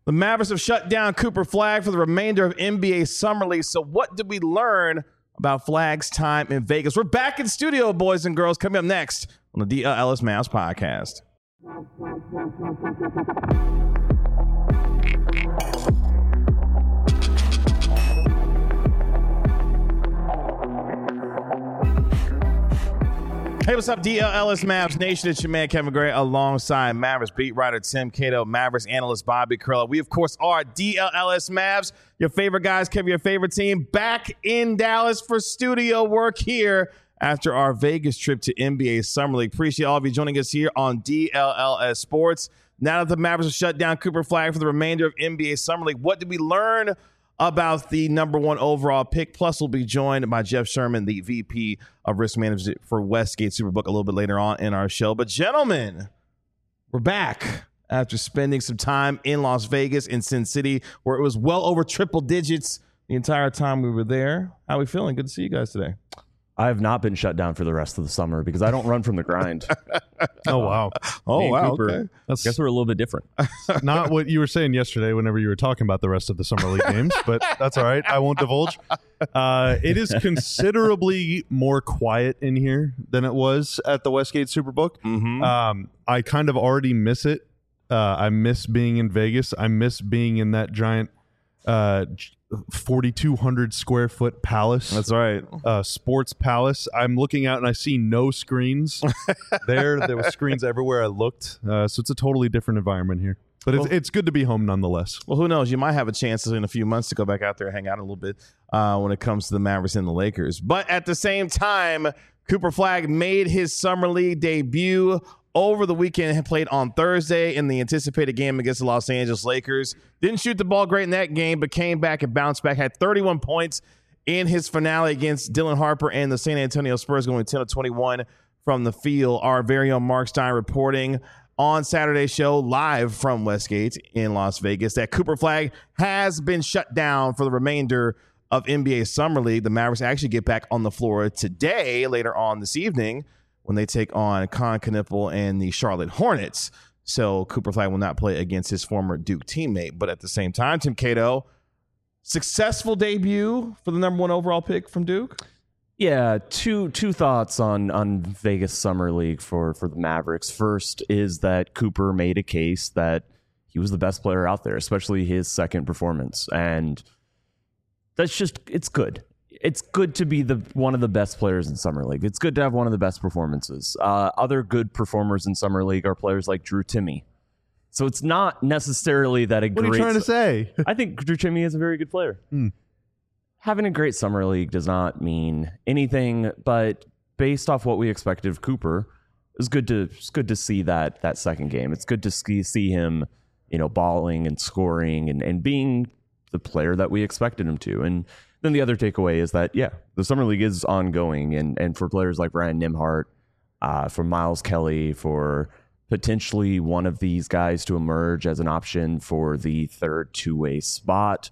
The Mavericks have shut down Cooper Flagg for the remainder of NBA Summer League. So what did we learn about Flagg's time in Vegas? We're back in studio, boys and girls, coming up next on the DL Ellis Mavs podcast. Hey, what's up, DL Ellis Mavs Nation? It's your man, Kevin Gray, alongside Mavericks beat writer Tim Cato, Mavericks analyst Bobby Curla. We, of course, are DL Ellis Mavs, your favorite guys, Kevin, your favorite team, back in Dallas for studio work here after our Vegas trip to NBA Summer League. Appreciate all of you joining us here on DLLS Sports. Now that the Mavericks have shut down Cooper Flagg for the remainder of NBA Summer League, what did we learn about the number one overall pick? Plus, we'll be joined by Jeff Sherman, the VP of Risk Management for Westgate Superbook, a little bit later on in our show. But gentlemen, we're back after spending some time in Las Vegas, in Sin City, where it was well over triple digits the entire time we were there. How are we feeling? Good to see you guys today. I have not been shut down for the rest of the summer because I don't run from the grind. Oh, wow. Me and wow. Cooper, Okay. I guess we're a little bit different. Not what you were saying yesterday whenever you were talking about the rest of the Summer League games, but that's all right. I won't divulge. It is considerably more quiet in here than it was at the Westgate Superbook. Mm-hmm. I kind of already miss it. I miss being in Vegas. I miss being in that giant 4,200 square foot palace. That's right. Sports palace. I'm looking out and I see no screens. There were screens everywhere I looked. So it's a totally different environment here. But it's good to be home nonetheless. Well, who knows? You might have a chance in a few months to go back out there and hang out a little bit when it comes to the Mavericks and the Lakers. But at the same time, Cooper Flagg made his Summer League debut over the weekend and played on Thursday in the anticipated game against the Los Angeles Lakers. Didn't shoot the ball great in that game, but came back and bounced back. Had 31 points in his finale against Dylan Harper and the San Antonio Spurs, going 10 of 21 from the field. Our very own Mark Stein reporting on Saturday's show live from Westgate in Las Vegas that Cooper Flagg has been shut down for the remainder of NBA Summer League. The Mavericks actually get back on the floor today, later on this evening, when they take on Con Knipple and the Charlotte Hornets. So Cooper Flagg will not play against his former Duke teammate. But at the same time, Tim Cato, successful debut for the number one overall pick from Duke. Yeah, two thoughts on Vegas Summer League for the Mavericks. First is that Cooper made a case that he was the best player out there, especially his second performance. And that's just, it's good. It's good to be one of the best players in Summer League. It's good to have one of the best performances. Other good performers in Summer League are players like Drew Timme. So it's not necessarily that What are you trying to say? I think Drew Timme is a very good player. Having a great Summer League does not mean anything, but based off what we expected of Cooper, it's good to see that second game. It's good to see him, balling and scoring and being the player that we expected him to. And then the other takeaway is that, the Summer League is ongoing. And for players like Ryan Nembhard, for Miles Kelly, for potentially one of these guys to emerge as an option for the third two-way spot,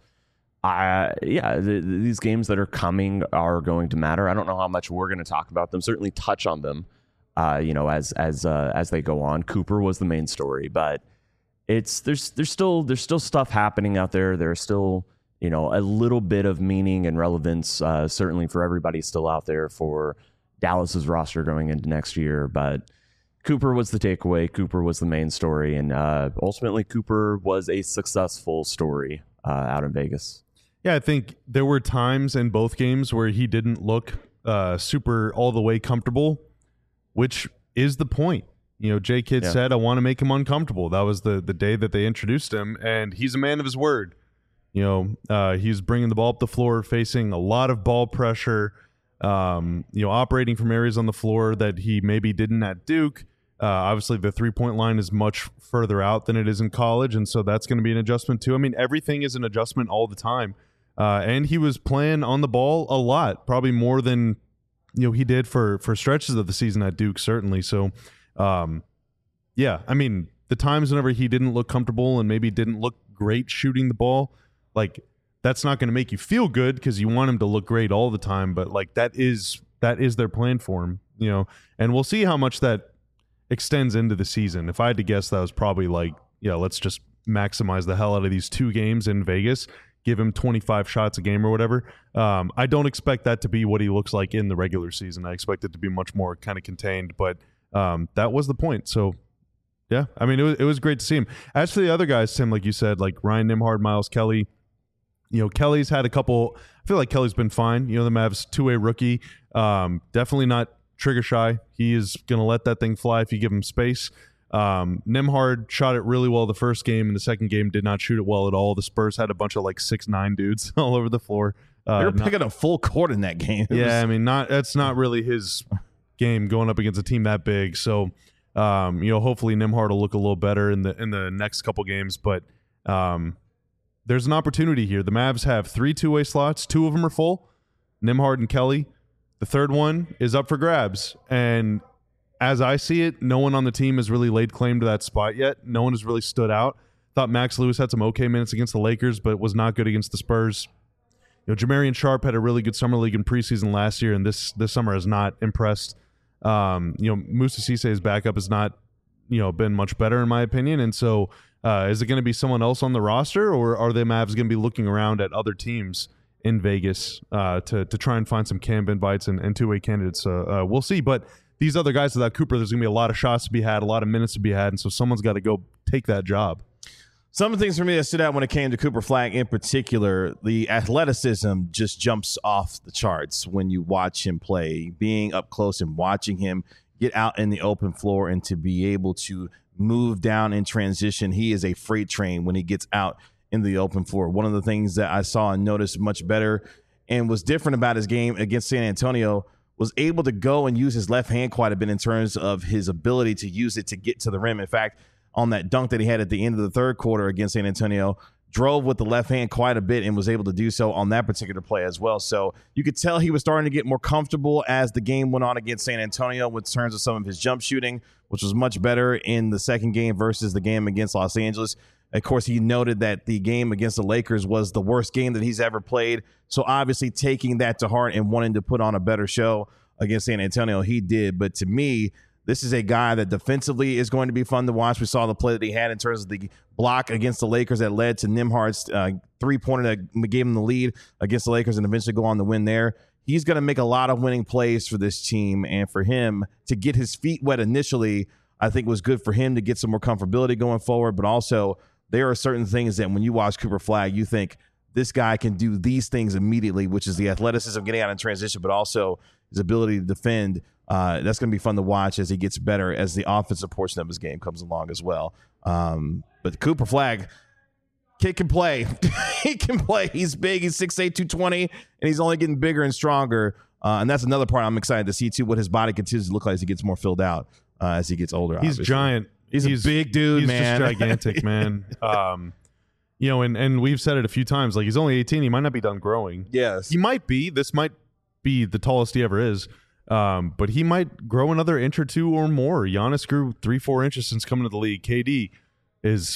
these games that are coming are going to matter. I don't know how much we're going to talk about them, certainly touch on them, as they go on. Cooper was the main story, but there's still stuff happening out there. There's still, a little bit of meaning and relevance, certainly for everybody still out there for Dallas's roster going into next year. But Cooper was the takeaway. Cooper was the main story. And ultimately, Cooper was a successful story out in Vegas. Yeah, I think there were times in both games where he didn't look super all the way comfortable, which is the point. Jay Kidd said, I want to make him uncomfortable. That was the day that they introduced him, and he's a man of his word. He's bringing the ball up the floor, facing a lot of ball pressure, operating from areas on the floor that he maybe didn't at Duke. Obviously, the three-point line is much further out than it is in college, and so that's going to be an adjustment too. I mean, everything is an adjustment all the time. And he was playing on the ball a lot, probably more than he did for stretches of the season at Duke, certainly. So, I mean, the times whenever he didn't look comfortable and maybe didn't look great shooting the ball, that's not going to make you feel good because you want him to look great all the time. But that is their plan for him, and we'll see how much that extends into the season. If I had to guess, that was probably let's just maximize the hell out of these 2 games in Vegas, give him 25 shots a game or whatever. I don't expect that to be what he looks like in the regular season. I expect it to be much more kind of contained, but that was the point. So, yeah, I mean, it was great to see him. As for the other guys, Tim, like you said, like Ryan Nembhard, Miles Kelly, Kelly's had a couple. I feel like Kelly's been fine. The Mavs 2-way rookie, definitely not trigger shy. He is going to let that thing fly if you give him space. Nembhard shot it really well the first game, and the second game did not shoot it well at all. The Spurs had a bunch of like 6'9" dudes all over the floor. They were picking a full court in that game. I mean, that's not really his game going up against a team that big. So, hopefully Nembhard will look a little better in the next couple games. But there's an opportunity here. The Mavs have 3 2-way slots. 2 of them are full. Nembhard and Kelly. The third one is up for grabs. And as I see it, no one on the team has really laid claim to that spot yet. No one has really stood out. Thought Max Lewis had some okay minutes against the Lakers, but was not good against the Spurs. Jamarian Sharp had a really good summer league in preseason last year, and this summer has not impressed. Moussa Cisse's backup has not, been much better in my opinion. And so, is it going to be someone else on the roster, or are the Mavs going to be looking around at other teams in Vegas to try and find some camp invites and two-way candidates? We'll see. But these other guys without Cooper, there's going to be a lot of shots to be had, a lot of minutes to be had, and so someone's got to go take that job. Some of the things for me that stood out when it came to Cooper Flagg in particular, the athleticism just jumps off the charts when you watch him play. Being up close and watching him get out in the open floor and to be able to move down in transition, he is a freight train when he gets out in the open floor. One of the things that I saw and noticed much better and was different about his game against San Antonio was able to go and use his left hand quite a bit in terms of his ability to use it to get to the rim. In fact, on that dunk that he had at the end of the third quarter against San Antonio, drove with the left hand quite a bit and was able to do so on that particular play as well. So you could tell he was starting to get more comfortable as the game went on against San Antonio in terms of some of his jump shooting, which was much better in the second game versus the game against Los Angeles. Of course, he noted that the game against the Lakers was the worst game that he's ever played. So obviously taking that to heart and wanting to put on a better show against San Antonio, he did. But to me, this is a guy that defensively is going to be fun to watch. We saw the play that he had in terms of the block against the Lakers that led to Nembhard's three-pointer that gave him the lead against the Lakers and eventually go on to win there. He's going to make a lot of winning plays for this team, and for him to get his feet wet initially, I think was good for him to get some more comfortability going forward. But also, there are certain things that when you watch Cooper Flagg, you think this guy can do these things immediately, which is the athleticism getting out in transition, but also his ability to defend. That's going to be fun to watch as he gets better as the offensive portion of his game comes along as well. But Cooper Flagg, kid can play. He can play. He's big. He's 6'8", 220, and he's only getting bigger and stronger. And that's another part I'm excited to see, too, what his body continues to look like as he gets more filled out as he gets older. He's obviously. Giant. He's a big dude, man. He's just gigantic, man. And we've said it a few times. Like, he's only 18. He might not be done growing. Yes. He might be. This might be the tallest he ever is. But he might grow another inch or two or more. Giannis grew 3-4 inches since coming to the league. KD is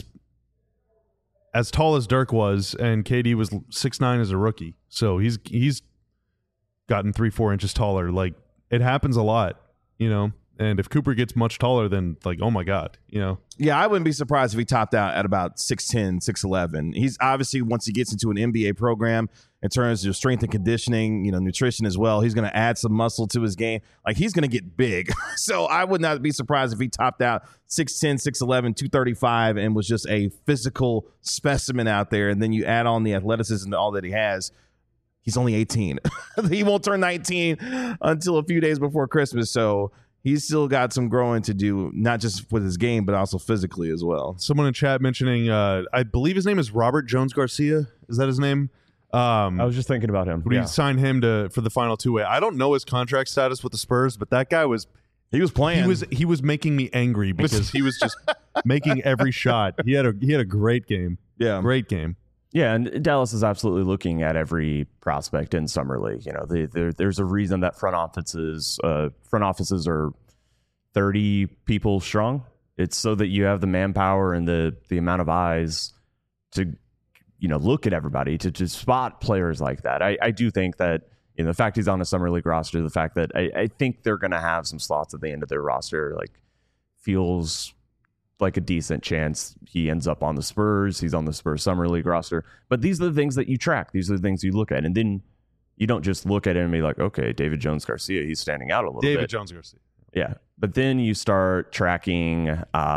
as tall as Dirk was, and KD was 6'9" as a rookie. So he's gotten 3-4 inches taller. Like, it happens a lot, And if Cooper gets much taller, then oh my God, Yeah, I wouldn't be surprised if he topped out at about 6'10", 6'11". He's obviously, once he gets into an NBA program in terms of strength and conditioning, nutrition as well, he's going to add some muscle to his game. Like, he's going to get big. So I would not be surprised if he topped out 6'10", 6'11", 235 and was just a physical specimen out there. And then you add on the athleticism to all that he has. He's only 18. He won't turn 19 until a few days before Christmas. So he's still got some growing to do, not just with his game, but also physically as well. Someone in chat mentioning, I believe his name is Robert Jones Garcia. Is that his name? I was just thinking about him. We signed him for the final two-way. I don't know his contract status with the Spurs, but that guy was playing. He was making me angry because he was just making every shot. He had a great game. Yeah, great game. Yeah, and Dallas is absolutely looking at every prospect in summer league. There's a reason that front offices are 30 people strong. It's so that you have the manpower and the amount of eyes to look at everybody to spot players like that. I do think that the fact he's on a summer league roster, the fact that I think they're going to have some slots at the end of their roster, feels like a decent chance he ends up on the Spurs. He's on the Spurs Summer League roster. But these are the things that you track. These are the things you look at. And then you don't just look at it and be like, okay, David Jones-Garcia, he's standing out a little bit. David Jones-Garcia. Yeah. But then you start tracking,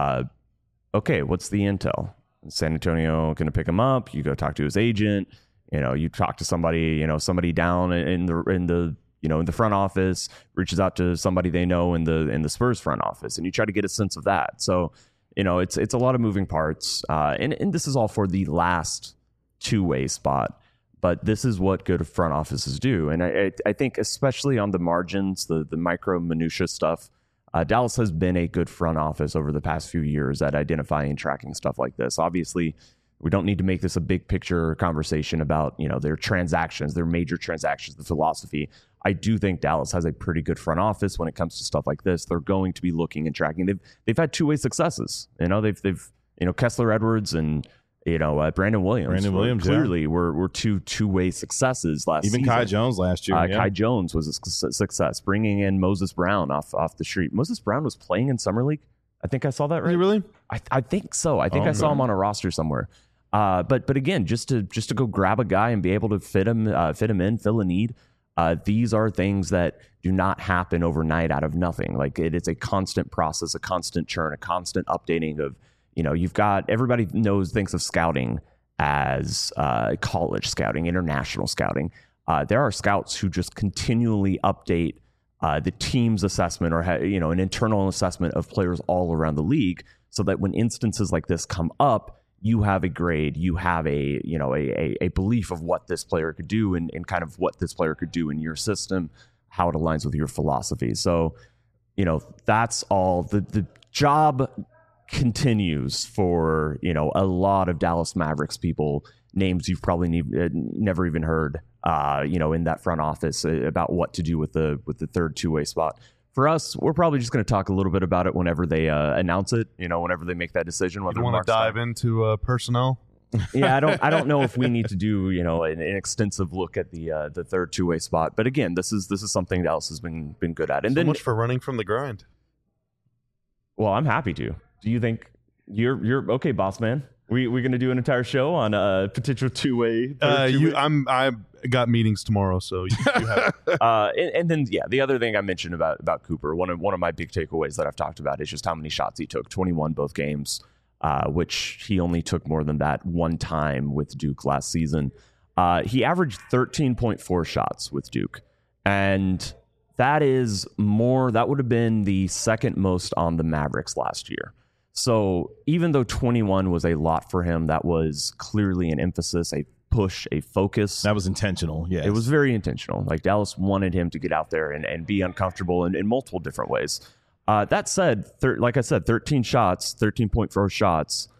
okay, what's the intel? Is San Antonio going to pick him up? You go talk to his agent. You talk to somebody, somebody down in the front office, reaches out to somebody they know in the Spurs front office, and you try to get a sense of that. So, it's a lot of moving parts. And this is all for the last two-way spot. But this is what good front offices do. And I think especially on the margins, the micro minutia stuff, Dallas has been a good front office over the past few years at identifying and tracking stuff like this. Obviously, we don't need to make this a big picture conversation about, their transactions, their major transactions, the philosophy. I do think Dallas has a pretty good front office when it comes to stuff like this. They're going to be looking and tracking. They've had two-way successes. They've Kessler Edwards and Brandon Williams. Clearly were two-way successes last season. Even Kai Jones last year. Kai Jones was a success. Bringing in Moses Brown off the street. Moses Brown was playing in Summer League. I think I saw that right. Really? I think so. I think I saw him on a roster somewhere. But again, just to go grab a guy and be able to fit him in, fill a need. These are things that do not happen overnight out of nothing. Like it is a constant process, a constant churn, a constant updating of. You've got everybody thinks of scouting as college scouting, international scouting. There are scouts who just continually update the team's assessment or an internal assessment of players all around the league, so that when instances like this come up, you have a grade, you have a belief of what this player could do and kind of what this player could do in your system, how it aligns with your philosophy. So, that's all the job continues for a lot of Dallas Mavericks people, names you've probably never even heard in that front office about what to do with the third two-way spot. For us, we're probably just going to talk a little bit about it whenever they announce it, whenever they make that decision. You want to dive into personnel? Yeah, I don't know if we need to do an extensive look at the third two-way spot, but again, this is something Dallas has been good at. And so much for running from the grind. Well, I'm happy to. Do you think you're okay, boss man? We're going to do an entire show on a potential two-way. I got meetings tomorrow, so you have. And then the other thing I mentioned about Cooper, one of my big takeaways that I've talked about is just how many shots he took. 21 both games, which he only took more than that one time with Duke last season. He averaged 13.4 shots with Duke, and that is more. That would have been the second most on the Mavericks last year. So even though 21 was a lot for him, that was clearly an emphasis, a push, a focus. That was intentional. Yeah, it was very intentional. Like Dallas wanted him to get out there and be uncomfortable in multiple different ways. That said, like I said, 13 shots, 13.4 shots.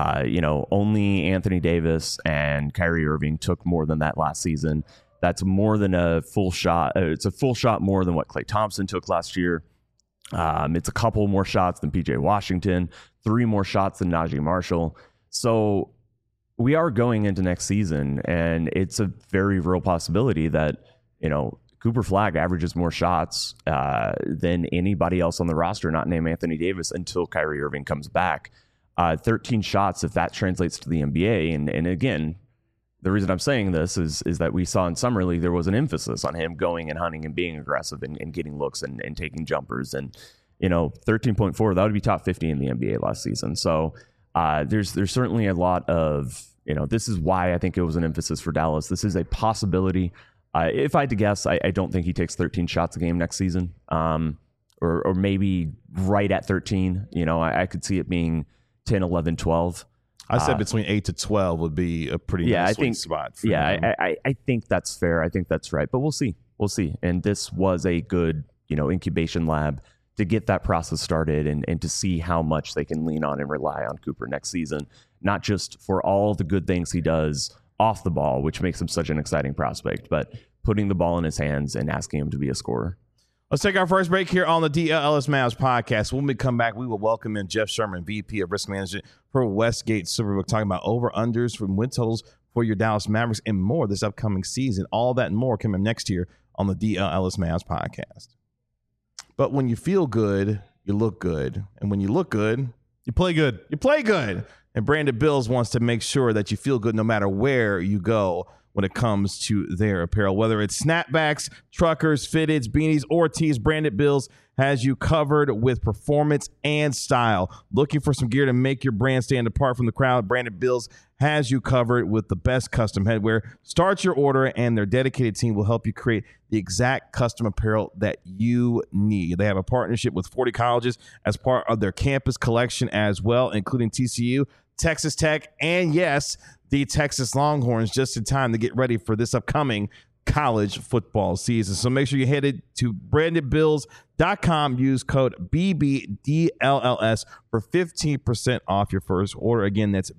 Only Anthony Davis and Kyrie Irving took more than that last season. That's more than a full shot. It's a full shot more than what Klay Thompson took last year. It's a couple more shots than PJ Washington, 3 more shots than Najee Marshall. So we are going into next season, and it's a very real possibility that, Cooper Flagg averages more shots than anybody else on the roster, not named Anthony Davis, until Kyrie Irving comes back. 13 shots, if that translates to the NBA. And again, the reason I'm saying this is that we saw in Summer League there was an emphasis on him going and hunting and being aggressive and getting looks and taking jumpers. And 13.4, that would be top 50 in the NBA last season. So there's certainly a lot of this is why I think it was an emphasis for Dallas. This is a possibility. If I had to guess, I don't think he takes 13 shots a game next season, or maybe right at 13. I could see it being 10, 11, 12. I said between 8 to 12 would be a pretty nice sweet spot. I think that's fair. I think that's right. But we'll see. And this was a good, incubation lab to get that process started and to see how much they can lean on and rely on Cooper next season, not just for all the good things he does off the ball, which makes him such an exciting prospect, but putting the ball in his hands and asking him to be a scorer. Let's take our first break here on the DLS Mavs podcast. When we come back, we will welcome in Jeff Sherman, VP of Risk Management for Westgate Superbook, talking about over-unders from win totals for your Dallas Mavericks and more this upcoming season. All that and more coming next year on the DLS Mavs podcast. But when you feel good, you look good. And when you look good, You play good. You play good. And Branded Bills wants to make sure that you feel good no matter where you go when it comes to their apparel. Whether it's snapbacks, truckers, fitteds, beanies, or tees, Branded Bills has you covered with performance and style. Looking for some gear to make your brand stand apart from the crowd? Branded Bills has you covered with the best custom headwear. Start your order, and their dedicated team will help you create the exact custom apparel that you need. They have a partnership with 40 colleges as part of their campus collection as well, including TCU, Texas Tech, and yes, the Texas Longhorns, just in time to get ready for this upcoming college football season. So make sure you head to brandedbills.com. Use code BBDLLS for 15% off your first order. Again, that's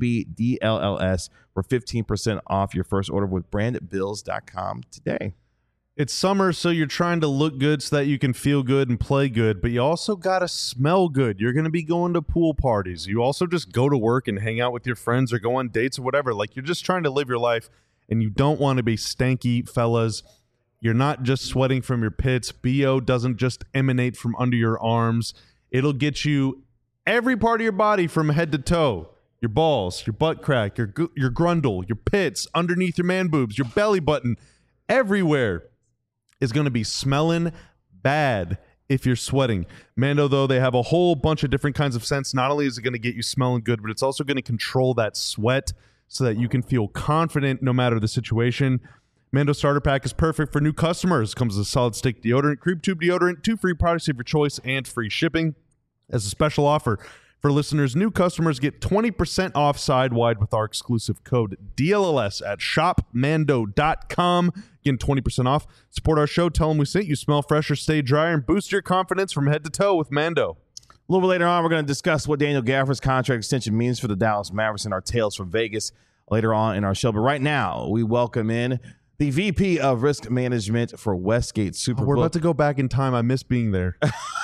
BBDLLS for 15% off your first order with brandedbills.com today. It's summer, so you're trying to look good so that you can feel good and play good, but you also got to smell good. You're going to be going to pool parties. You also just go to work and hang out with your friends or go on dates or whatever. Like, you're just trying to live your life, and you don't want to be stanky, fellas. You're not just sweating from your pits. BO doesn't just emanate from under your arms. It'll get you every part of your body from head to toe. Your balls, your butt crack, your grundle, your pits, underneath your man boobs, your belly button, everywhere is going to be smelling bad if you're sweating. Mando, though, they have a whole bunch of different kinds of scents. Not only is it going to get you smelling good, but it's also going to control that sweat so that you can feel confident no matter the situation. Mando Starter Pack is perfect for new customers. It comes with a solid stick deodorant, creep tube deodorant, 2 free products of your choice, and free shipping. As a special offer for listeners, new customers get 20% off side-wide with our exclusive code DLLS at shopmando.com. Again, 20% off. Support our show. Tell them we sent you. Smell fresher, stay drier, and boost your confidence from head to toe with Mando. A little bit later on, we're going to discuss what Daniel Gafford's contract extension means for the Dallas Mavericks and our tales from Vegas later on in our show. But right now, we welcome in the VP of Risk Management for Westgate Superbook. We're about to go back in time. I miss being there.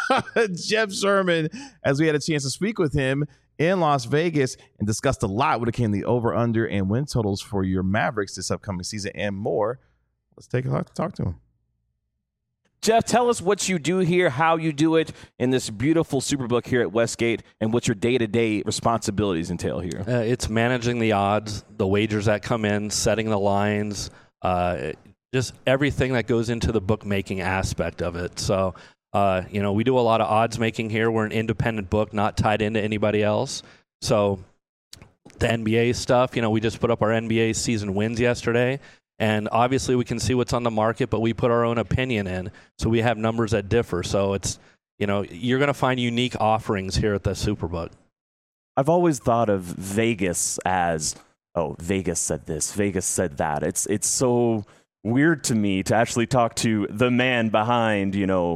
Jeff Sherman, as we had a chance to speak with him in Las Vegas and discussed a lot when it came to the over, under, and win totals for your Mavericks this upcoming season and more. Let's take a talk to him. Jeff, tell us what you do here, how you do it in this beautiful Superbook here at Westgate, and what your day-to-day responsibilities entail here. It's managing the odds, the wagers that come in, setting the lines, just everything that goes into the bookmaking aspect of it. So, we do a lot of odds making here. We're an independent book, not tied into anybody else. So the NBA stuff, we just put up our NBA season wins yesterday. And obviously we can see what's on the market, but we put our own opinion in. So we have numbers that differ. So it's, you're going to find unique offerings here at the Superbook. I've always thought of Vegas as, Vegas said this, Vegas said that. It's so weird to me to actually talk to the man behind,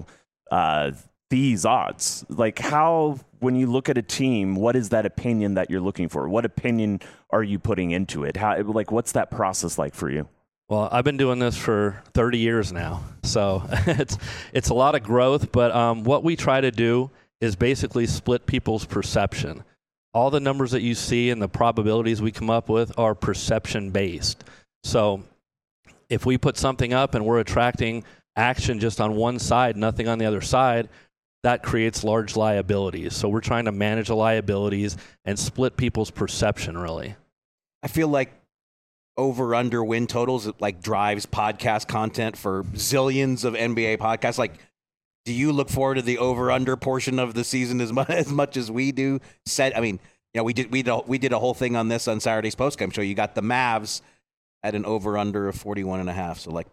these odds. Like, how, when you look at a team, what is that opinion that you're looking for? What opinion are you putting into it? What's that process like for you? Well, I've been doing this for 30 years now, so it's a lot of growth, but what we try to do is basically split people's perception. All the numbers that you see and the probabilities we come up with are perception-based. So if we put something up and we're attracting action just on one side, nothing on the other side, that creates large liabilities. So we're trying to manage the liabilities and split people's perception, really. I feel like over-under win totals drives podcast content for zillions of NBA podcasts. Do you look forward to the over-under portion of the season as much as we do? We did a whole thing on this on Saturday's postgame show. You got the Mavs at an over-under of 41.5. So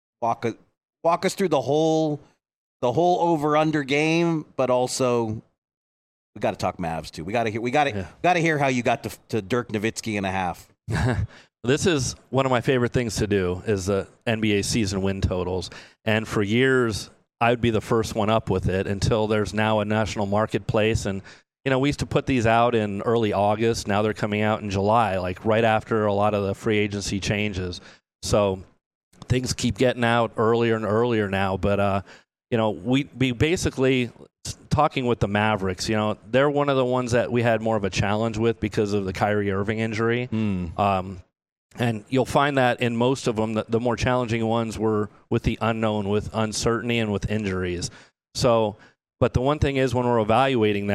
walk us through the whole over-under game, but also we got to talk Mavs too. We got to hear how you got to Dirk Nowitzki and a half. This is one of my favorite things to do, is the NBA season win totals. And for years, I would be the first one up with it until there's now a national marketplace. And, we used to put these out in early August. Now they're coming out in July, right after a lot of the free agency changes. So things keep getting out earlier and earlier now. But, we basically, talking with the Mavericks, they're one of the ones that we had more of a challenge with because of the Kyrie Irving injury. And you'll find that in most of them, the more challenging ones were with the unknown, with uncertainty, and with injuries. So, but the one thing is, when we're evaluating that,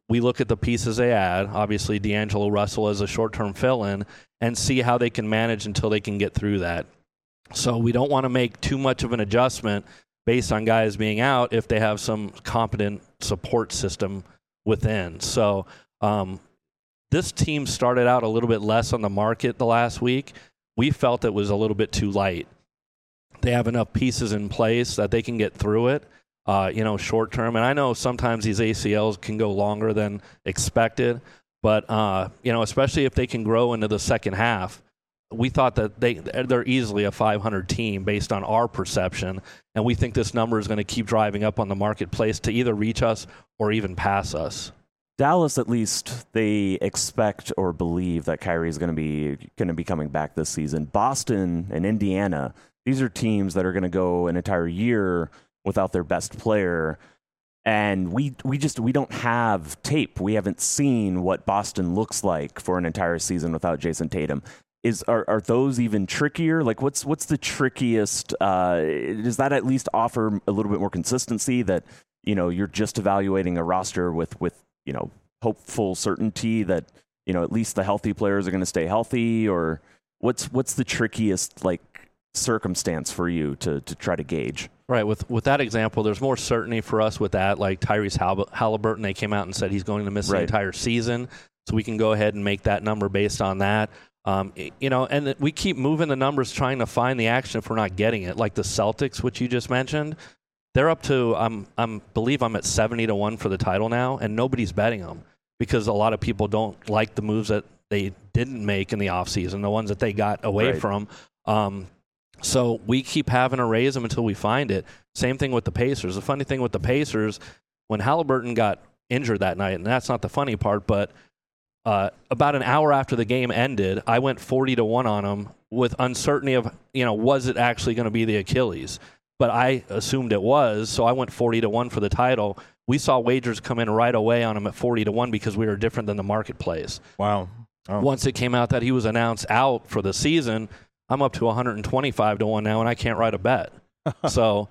we look at the pieces they add, obviously D'Angelo Russell as a short-term fill-in, and see how they can manage until they can get through that. So we don't want to make too much of an adjustment based on guys being out if they have some competent support system within. So this team started out a little bit less on the market the last week. We felt it was a little bit too light. They have enough pieces in place that they can get through it, short term. And I know sometimes these ACLs can go longer than expected, but, especially if they can grow into the second half, we thought that they're easily a 500 team based on our perception, and we think this number is going to keep driving up on the marketplace to either reach us or even pass us. Dallas, at least, they expect or believe that Kyrie is going to be coming back this season. Boston and Indiana, these are teams that are going to go an entire year without their best player. And we don't have tape. We haven't seen what Boston looks like for an entire season without Jason Tatum. Are those even trickier? Like, what's the trickiest? Does that at least offer a little bit more consistency that, you're just evaluating a roster with hopeful certainty that, at least the healthy players are going to stay healthy? Or what's the trickiest, circumstance for you to try to gauge? Right. With that example, there's more certainty for us with that. Like Tyrese Halliburton, they came out and said he's going to miss the entire season. So we can go ahead and make that number based on that. And we keep moving the numbers trying to find the action if we're not getting it. Like the Celtics, which you just mentioned, they're up to, believe I'm at 70-1 for the title now, and nobody's betting them because a lot of people don't like the moves that they didn't make in the offseason, the ones that they got away from. So we keep having to raise them until we find it. Same thing with the Pacers. The funny thing with the Pacers, when Halliburton got injured that night, and that's not the funny part, but about an hour after the game ended, I went 40-1 on him with uncertainty of, was it actually going to be the Achilles? But I assumed it was, so I went 40-1 for the title. We saw wagers come in right away on him at 40-1 because we were different than the marketplace. Wow. Oh. Once it came out that he was announced out for the season, I'm up to 125-1 now, and I can't write a bet. So,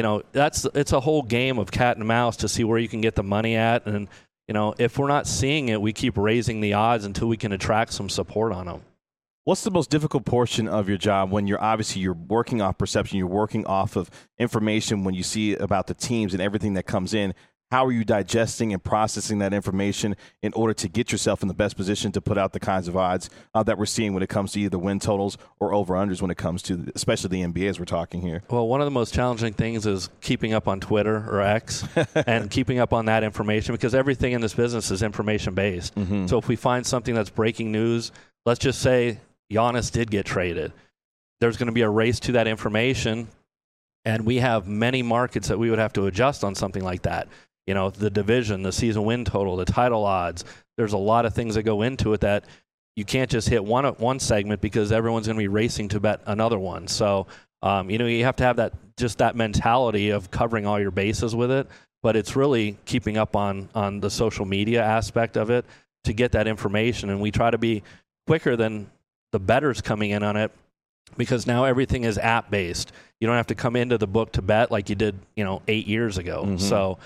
it's a whole game of cat and mouse to see where you can get the money at. And, if we're not seeing it, we keep raising the odds until we can attract some support on them. What's the most difficult portion of your job when you're working off perception, you're working off of information when you see about the teams and everything that comes in? How are you digesting and processing that information in order to get yourself in the best position to put out the kinds of odds that we're seeing when it comes to either win totals or over-unders when it comes to, especially the NBA as we're talking here? Well, one of the most challenging things is keeping up on Twitter or X and keeping up on that information because everything in this business is information-based. Mm-hmm. So if we find something that's breaking news, let's just say Giannis did get traded. There's going to be a race to that information, and we have many markets that we would have to adjust on something like that. The division, the season win total, the title odds. There's a lot of things that go into it that you can't just hit one segment because everyone's going to be racing to bet another one. So, you have to have that mentality of covering all your bases with it. But it's really keeping up on the social media aspect of it to get that information. And we try to be quicker than the bettors coming in on it because now everything is app-based. You don't have to come into the book to bet like you did, 8 years ago. Mm-hmm. So,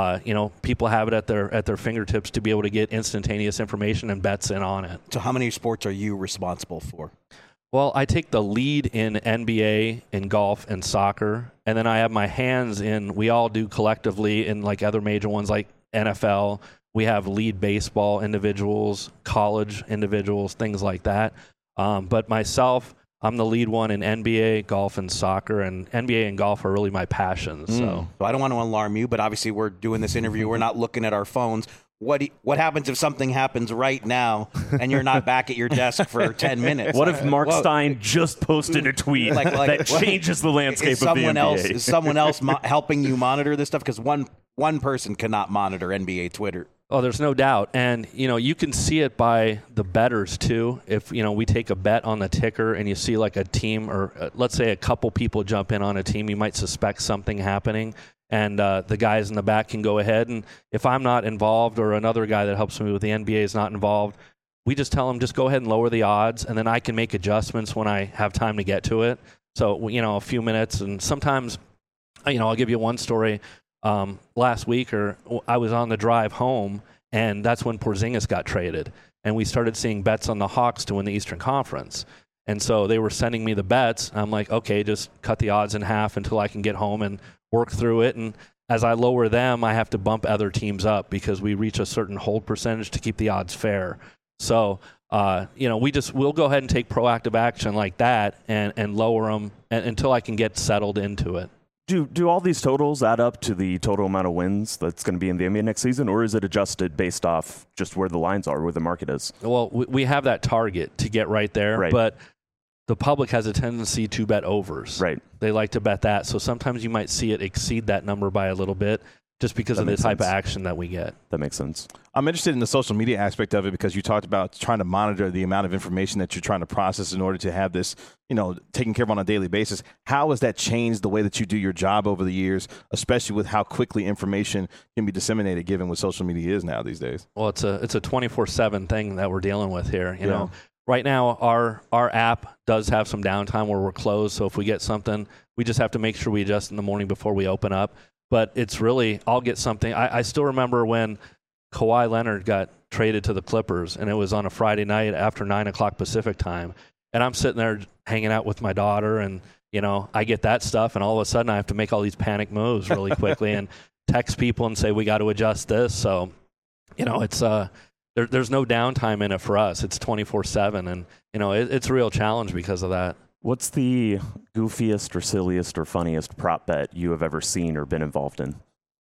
people have it at their fingertips to be able to get instantaneous information and bets in on it. So how many sports are you responsible for? Well, I take the lead in NBA, in golf, and soccer. And then I have my hands in, we all do collectively in other major ones like NFL. We have lead baseball individuals, college individuals, things like that. But myself, I'm the lead one in NBA, golf, and soccer, and NBA and golf are really my passions. So I don't want to alarm you, but obviously we're doing this interview. We're not looking at our phones. What happens if something happens right now and you're not back at your desk for 10 minutes? What if Mark Stein just posted a tweet that changes the landscape of the NBA? Is someone else helping you monitor this stuff? Because one person cannot monitor NBA Twitter. Oh, there's no doubt. And, you can see it by the bettors, too. If, we take a bet on the ticker and you see a team or let's say a couple people jump in on a team, you might suspect something happening. And the guys in the back can go ahead. And if I'm not involved or another guy that helps me with the NBA is not involved, we just tell them just go ahead and lower the odds. And then I can make adjustments when I have time to get to it. So, a few minutes. And sometimes, I'll give you one story. Last week, I was on the drive home, And that's when Porzingis got traded. And we started seeing bets on the Hawks to win the Eastern Conference. And so they were sending me the bets. I'm like, okay, just cut the odds in half until I can get home and work through it. And as I lower them, I have to bump other teams up because we reach a certain hold percentage to keep the odds fair. So, we'll go ahead and take proactive action like that and lower them until I can get settled into it. Do all these totals add up to the total amount of wins that's going to be in the NBA next season, or is it adjusted based off just where the lines are, where the market is? Well, we have that target to get right there, but the public has a tendency to bet overs. Right. They like to bet that, so sometimes you might see it exceed that number by a little bit just because of the type of action that we get. That makes sense. I'm interested in the social media aspect of it because you talked about trying to monitor the amount of information that you're trying to process in order to have this, taken care of on a daily basis. How has that changed the way that you do your job over the years, especially with how quickly information can be disseminated given what social media is now these days? Well, it's a 24/7 thing that we're dealing with here. You know, right now our app does have some downtime where we're closed. So if we get something, we just have to make sure we adjust in the morning before we open up. But it's really, I'll get something. I still remember when Kawhi Leonard got traded to the Clippers, and it was on a Friday night after 9 o'clock Pacific time. And I'm sitting there hanging out with my daughter, and, I get that stuff, and all of a sudden I have to make all these panic moves really quickly and text people and say, we got to adjust this. So, it's there's no downtime in it for us. It's 24/7, and, it's a real challenge because of that. What's the goofiest or silliest or funniest prop bet you have ever seen or been involved in?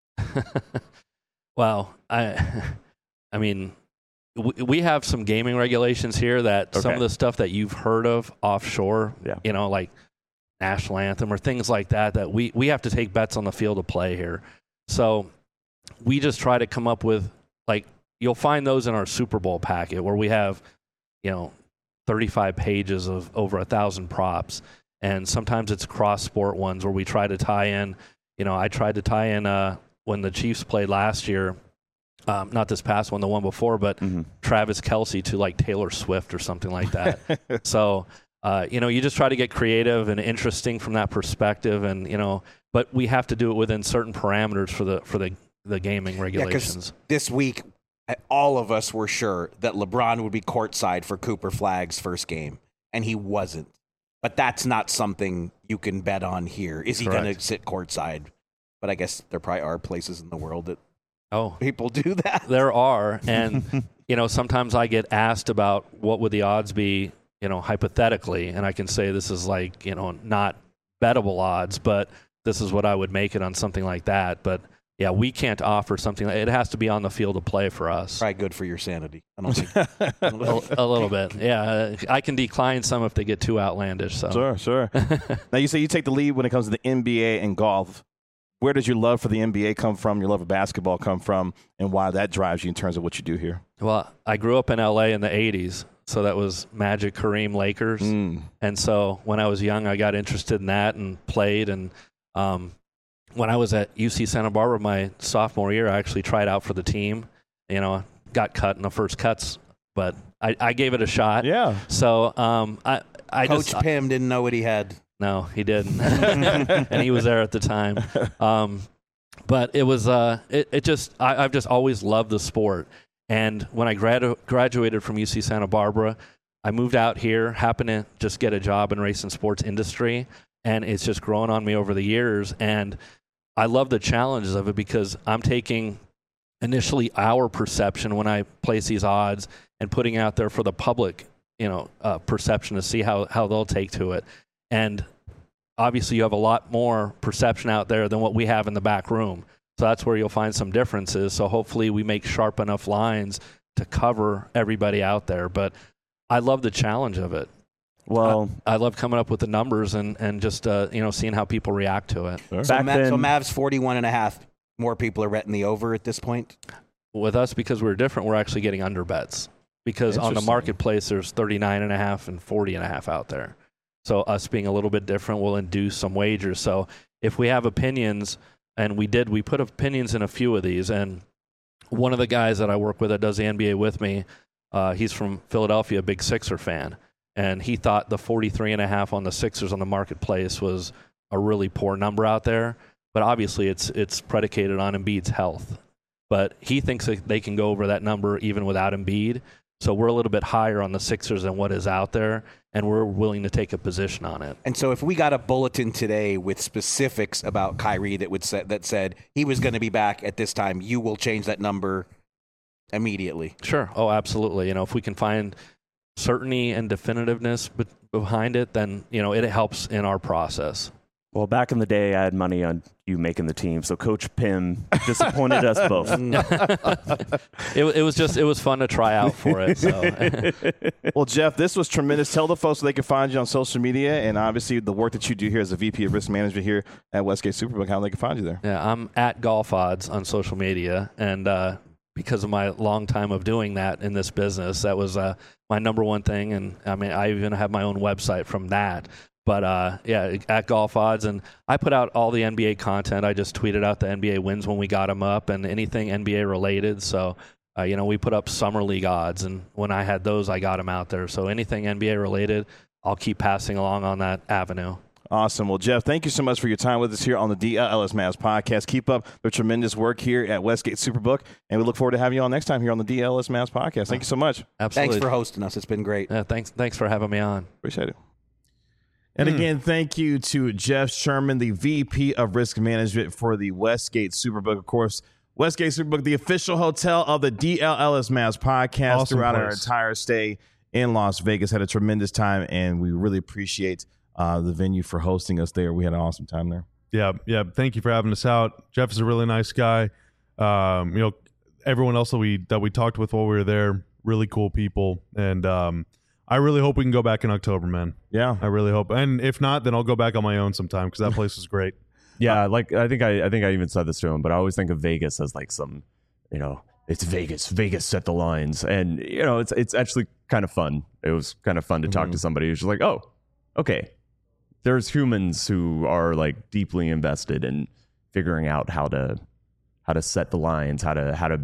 Well, I mean, we have some gaming regulations here that some of the stuff that you've heard of offshore, like National Anthem or things like that we have to take bets on the field of play here. So we just try to come up with, you'll find those in our Super Bowl packet where we have, 35 pages of over 1,000 props. And sometimes it's cross-sport ones where we try to tie in, I tried to tie in when the Chiefs played last year, not this past one, the one before, but Travis Kelce to Taylor Swift or something like that. So, you just try to get creative and interesting from that perspective. And, but we have to do it within certain parameters for the gaming regulations. This week, all of us were sure that LeBron would be courtside for Cooper Flagg's first game, and he wasn't. But that's not something you can bet on here. Is he going to sit courtside? But I guess there probably are places in the world that people do that. There are. And, sometimes I get asked about what would the odds be, hypothetically, and I can say this is not bettable odds, but this is what I would make it on something like that. But yeah, we can't offer something. It has to be on the field of play for us. Probably good for your sanity. I don't think a little bit. Yeah, I can decline some if they get too outlandish. So Sure. Now you say you take the lead when it comes to the NBA and golf. Where does your love for the NBA come from? Your love of basketball come from, and why that drives you in terms of what you do here? Well, I grew up in LA in the '80s, so that was Magic, Kareem, Lakers, and so when I was young, I got interested in that and played and. When I was at UC Santa Barbara my sophomore year, I actually tried out for the team. Got cut in the first cuts, but I gave it a shot. Yeah. So Coach Pim didn't know what he had. No, he didn't, and he was there at the time. But it was I've just always loved the sport. And when I graduated from UC Santa Barbara, I moved out here, happened to just get a job in race and sports industry, and it's just grown on me over the years. And I love the challenges of it because I'm taking initially our perception when I place these odds and putting it out there for the public, perception to see how they'll take to it. And obviously you have a lot more perception out there than what we have in the back room. So that's where you'll find some differences. So hopefully we make sharp enough lines to cover everybody out there. But I love the challenge of it. Well, I love coming up with the numbers and just seeing how people react to it. Sure. So Mavs 41.5. More people are betting the over at this point. With us, because we're different, we're actually getting under bets because on the marketplace there's 39.5 and 40.5 out there. So us being a little bit different will induce some wagers. So if we have opinions, and we put opinions in a few of these, and one of the guys that I work with that does the NBA with me, he's from Philadelphia, a big Sixer fan. And he thought the 43.5 on the Sixers on the marketplace was a really poor number out there. But obviously it's predicated on Embiid's health. but he thinks that they can go over that number even without Embiid. So we're a little bit higher on the Sixers than what is out there, and we're willing to take a position on it. And so if we got a bulletin today with specifics about Kyrie that said he was going to be back at this time, you will change that number immediately. Sure. Oh, absolutely. If we can find certainty and definitiveness behind it, then, it helps in our process. Well, back in the day, I had money on you making the team, so Coach Pim disappointed us both. It was fun to try out for it. So. Well, Jeff, this was tremendous. Tell the folks so they can find you on social media, and obviously the work that you do here as a VP of Risk Management here at Westgate Superbook, how they can find you there. Yeah, I'm at Golf Odds on social media, and because of my long time of doing that in this business, that was my number one thing. And I even have my own website from that. But at Golf Odds, and I put out all the NBA content. I just tweeted out the NBA wins when we got them up, and anything NBA related. So, we put up summer league odds, and when I had those, I got them out there. So anything NBA related, I'll keep passing along on that avenue. Awesome. Well, Jeff, thank you so much for your time with us here on the DLLS Mavs podcast. Keep up the tremendous work here at Westgate Superbook, and we look forward to having you on next time here on the DLLS Mavs podcast. Thank you so much. Absolutely. Thanks for hosting us. It's been great. Yeah, thanks for having me on. Appreciate it. And again, thank you to Jeff Sherman, the VP of Risk Management for the Westgate Superbook. Of course, Westgate Superbook, the official hotel of the DLLS Mavs podcast Awesome throughout place. our entire stay in Las Vegas. Had a tremendous time, and we really appreciate the venue for hosting us there. We had an awesome time there. Yeah. Thank you for having us out. Jeff is a really nice guy. Everyone else that we talked with while we were there, really cool people. And I really hope we can go back in October, man. Yeah. I really hope. And if not, then I'll go back on my own sometime because that place was great. Yeah, I think I even said this to him, but I always think of Vegas as like some, it's Vegas. Vegas set the lines, and it's actually kind of fun. It was kind of fun to talk to somebody who's just like, oh, okay. There's humans who are like deeply invested in figuring out how to set the lines, how to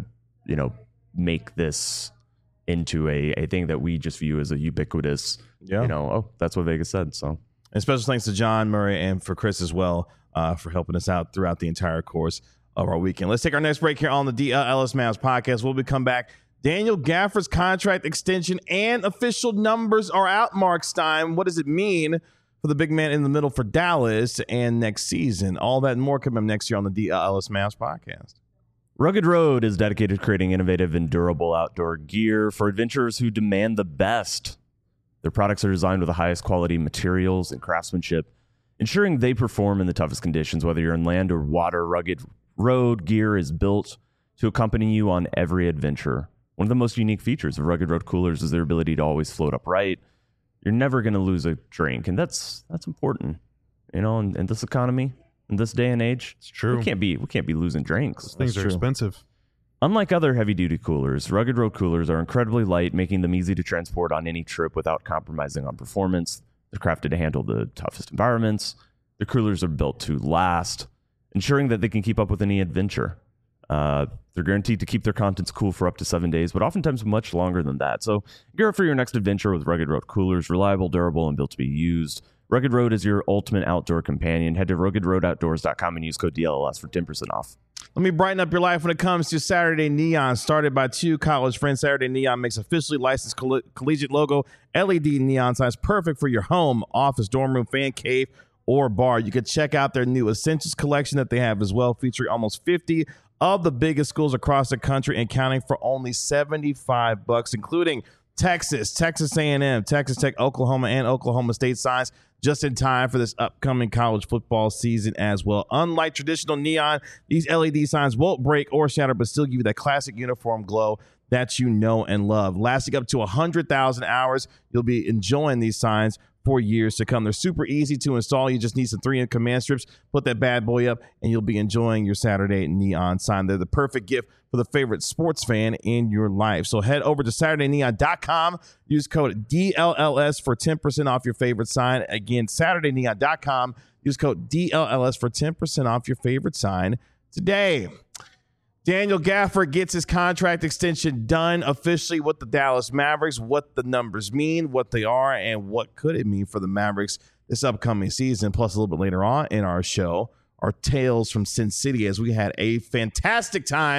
make this into a thing that we just view as a ubiquitous, that's what Vegas said. So, and special thanks to John Murray and for Chris as well for helping us out throughout the entire course of our weekend. Let's take our next break here on the DLLS Mavs podcast. We'll be come back. Daniel Gafford's contract extension and official numbers are out, Mark Stein. What does it mean for the big man in the middle for Dallas and next season? All that and more coming up next year on the DLLS Mavs podcast. Rugged Road is dedicated to creating innovative and durable outdoor gear for adventurers who demand the best. Their products are designed with the highest quality materials and craftsmanship, ensuring they perform in the toughest conditions. Whether you're in land or water, Rugged Road gear is built to accompany you on every adventure. One of the most unique features of Rugged Road coolers is their ability to always float upright. You're never going to lose a drink, and that's important. In this economy, in this day and age, It's true. We can't be losing drinks. Things are expensive. Unlike other heavy-duty coolers, Rugged Road coolers are incredibly light, making them easy to transport on any trip without compromising on performance. They're crafted to handle the toughest environments. The coolers are built to last, ensuring that they can keep up with any adventure. They're guaranteed to keep their contents cool for up to 7 days, but oftentimes much longer than that. So gear up for your next adventure with Rugged Road coolers, reliable, durable, and built to be used. Rugged Road is your ultimate outdoor companion. Head to ruggedroadoutdoors.com and use code DLLS for 10% off. Let me brighten up your life when it comes to Saturday Neon. Started by two college friends, Saturday Neon makes officially licensed collegiate logo LED neon signs perfect for your home, office, dorm room, fan cave, or bar. You can check out their new Essentials collection that they have as well, featuring almost 50 of the biggest schools across the country and counting for only $75, including Texas, Texas A&M, Texas Tech, Oklahoma, and Oklahoma State signs just in time for this upcoming college football season as well. Unlike traditional neon, these LED signs won't break or shatter, but still give you that classic uniform glow that you know and love. Lasting up to 100,000 hours, you'll be enjoying these signs for years to come. They're super easy to install. You just need some 3M command strips, put that bad boy up, and you'll be enjoying your Saturday neon sign. They're the perfect gift for the favorite sports fan in your life. So head over to SaturdayNeon.com. Use code DLLS for 10% off your favorite sign. Again, SaturdayNeon.com. Use code DLLS for 10% off your favorite sign today. Daniel Gafford gets his contract extension done officially with the Dallas Mavericks. What the numbers mean, what they are, and what could it mean for the Mavericks this upcoming season. Plus, a little bit later on in our show, our tales from Sin City, as we had a fantastic time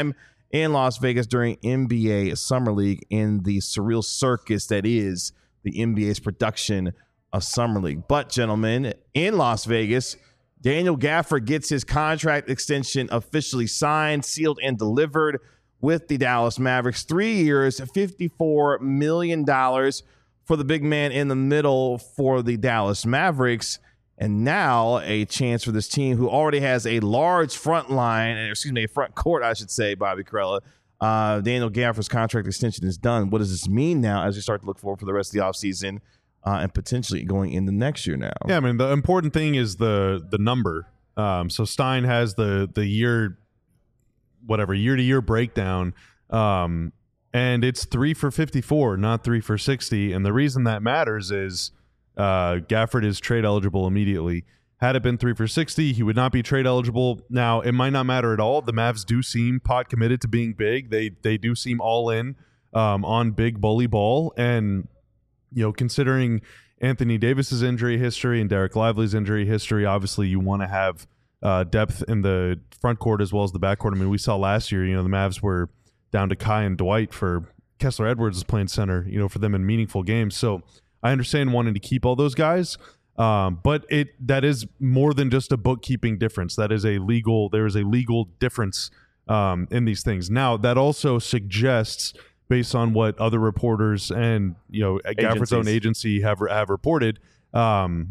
in Las Vegas during NBA Summer League in the surreal circus that is the NBA's production of Summer League. But, gentlemen, in Las Vegas, Daniel Gafford gets his contract extension officially signed, sealed, and delivered with the Dallas Mavericks. 3 years, $54 million for the big man in the middle for the Dallas Mavericks. And now a chance for this team who already has a large front court, I should say, Bobby Karalla. Daniel Gafford's contract extension is done. What does this mean now as we start to look forward for the rest of the offseason and potentially going into next year now? Yeah, I mean, the important thing is the number. So Stein has the year-to-year breakdown, and it's 3 for 54, not 3 for 60. And the reason that matters is Gafford is trade eligible immediately. Had it been 3 for 60, he would not be trade eligible. Now, it might not matter at all. The Mavs do seem pot committed to being big. They do seem all in on big bully ball. And, considering Anthony Davis's injury history and Derek Lively's injury history, obviously you want to have depth in the front court as well as the back court. I mean, we saw last year, the Mavs were down to Kai and Dwight for Kessler Edwards is playing center, for them in meaningful games. So I understand wanting to keep all those guys, but that is more than just a bookkeeping difference. There is a legal difference in these things. Now, that also suggests, based on what other reporters and Gafford's own agency have reported. You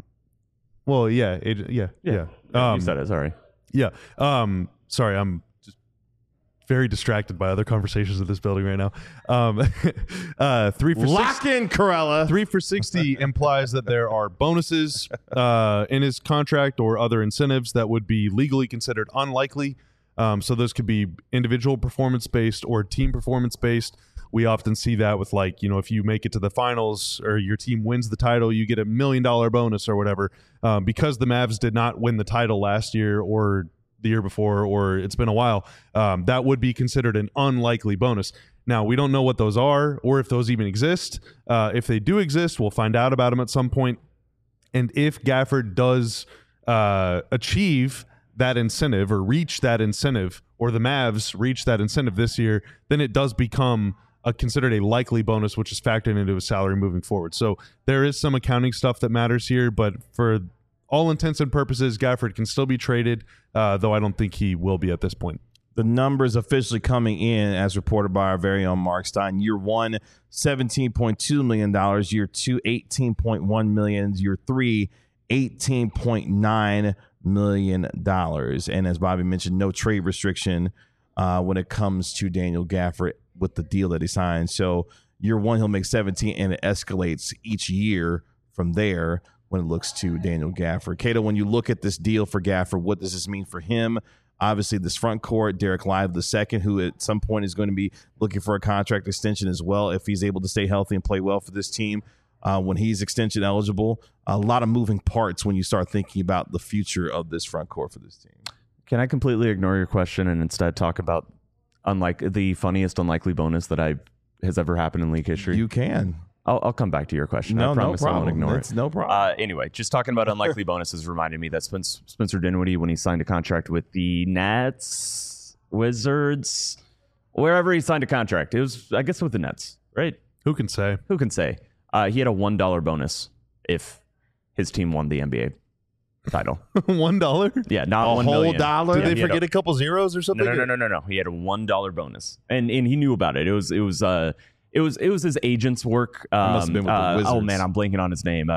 said it. Sorry. Yeah. Sorry, I'm just very distracted by other conversations in this building right now. 3 for Lock in, Karalla. 3 for 60 implies that there are bonuses in his contract or other incentives that would be legally considered unlikely. So those could be individual performance-based or team performance-based. We often see that with if you make it to the finals or your team wins the title, you get $1 million bonus or whatever. Because the Mavs did not win the title last year or the year before, or it's been a while, that would be considered an unlikely bonus. Now, we don't know what those are or if those even exist. If they do exist, we'll find out about them at some point. And if Gafford does achieve that incentive or reach that incentive, or the Mavs reach that incentive this year, then it does become considered a likely bonus, which is factored into his salary moving forward. So there is some accounting stuff that matters here, but for all intents and purposes, Gafford can still be traded, though I don't think he will be at this point. The numbers officially coming in, as reported by our very own Mark Stein. Year 1, $17.2 million. Year 2, $18.1 million. Year 3, $18.9 million. And as Bobby mentioned, no trade restriction when it comes to Daniel Gafford with the deal that he signed. So year 1, he'll make 17, and it escalates each year from there when it looks to Daniel Gafford. Cato, when you look at this deal for Gafford, what does this mean for him? Obviously, this front court, Derek Lively II, who at some point is going to be looking for a contract extension as well if he's able to stay healthy and play well for this team when he's extension eligible. A lot of moving parts when you start thinking about the future of this front court for this team. Can I completely ignore your question and instead talk about the funniest unlikely bonus that has ever happened in league history? You can. I'll come back to your question. No, I promise no problem. I won't ignore It's it. no problem. Anyway, just talking about unlikely bonuses reminded me that Spencer Dinwiddie, when he signed a contract with the Nets, Wizards, wherever he signed a contract, it was, I guess, with the Nets, right? Who can say? Who can say? He had a $1 bonus if his team won the NBA title. $1? Yeah, not A $1 whole million. dollar? Did Yeah, they forget a couple zeros or something? No. He had a $1 bonus, and he knew about it. It was his agent's work. must have been with the Wizards. Oh man, I'm blanking on his name.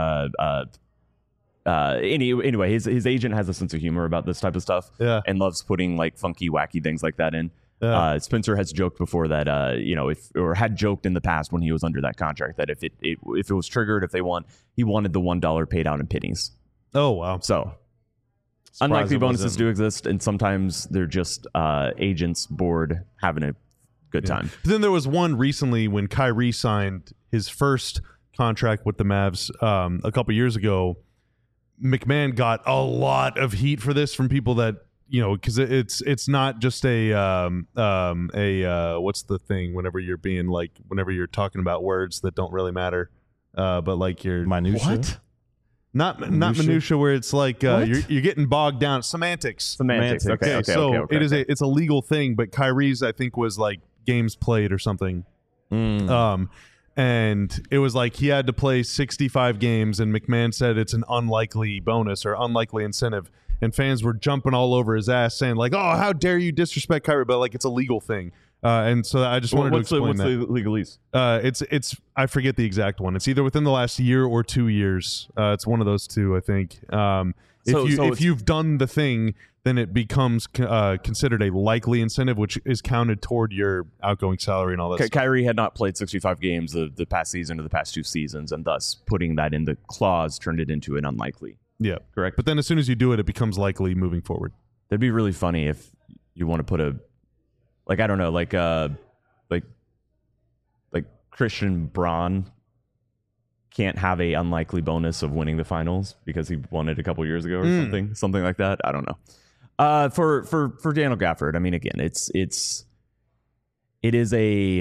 Anyway, his agent has a sense of humor about this type of stuff, and loves putting funky, wacky things like that in. Spencer has joked before that, had joked in the past when he was under that contract that if it was triggered, if they won, he wanted the $1 paid out in pennies. Oh wow! So unlikely bonuses do exist, and sometimes they're just agents bored having a good time. But then there was one recently when Kyrie signed his first contract with the Mavs a couple years ago. McMahon got a lot of heat for this from people that, because it's not just a what's the thing whenever you're talking about words that don't really matter, but you're Minutia? What? Not minutia where it's like you're getting bogged down. Semantics. Okay. It's a legal thing, but Kyrie's I think was like games played or something. And it was like he had to play 65 games, and McMahon said it's an unlikely bonus or unlikely incentive. And fans were jumping all over his ass saying like, oh, how dare you disrespect Kyrie? But like it's a legal thing. And so I just wanted to explain what's that. the legalese? It's I forget the exact one. It's either within the last year or 2 years. It's one of those two, I think. If you've done the thing, then it becomes considered a likely incentive, which is counted toward your outgoing salary and all that stuff. Kyrie had not played 65 games the past season or the past 2 seasons, and thus putting that in the clause turned it into an unlikely. Yeah, correct. But then as soon as you do it, it becomes likely moving forward. That'd be really funny if you want to put like Christian Braun can't have a unlikely bonus of winning the finals because he won it a couple years ago or something like that. I don't know. For Daniel Gafford, I mean, again, it is a,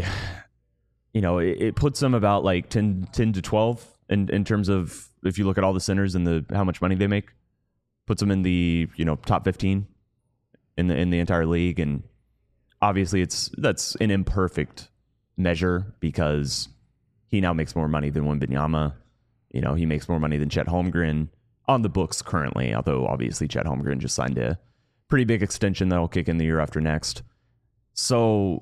it puts him about like 10 to 12 in terms of, if you look at all the centers and how much money they make, puts them in the, top 15 in the entire league. And obviously that's an imperfect measure because he now makes more money than Wembanyama. He makes more money than Chet Holmgren on the books currently, although obviously Chet Holmgren just signed a pretty big extension that'll kick in the year after next. So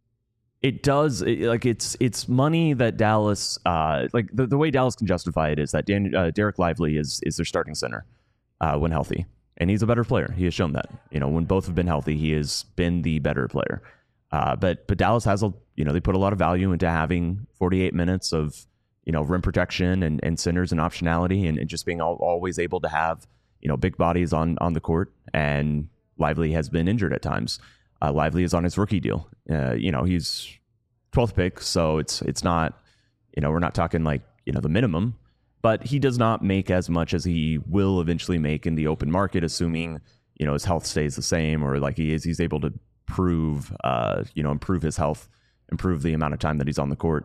it does, it's money that Dallas, the way Dallas can justify it is that Derek Lively is their starting center when healthy. And he's a better player. He has shown that. When both have been healthy, he has been the better player. But Dallas has they put a lot of value into having 48 minutes of rim protection and centers and optionality and just being always able to have big bodies on the court. And Lively has been injured at times. Lively is on his rookie deal. He's 12th pick, so it's not we're not talking like the minimum, but he does not make as much as he will eventually make in the open market, assuming his health stays the same or like he's able to improve his health, improve the amount of time that he's on the court.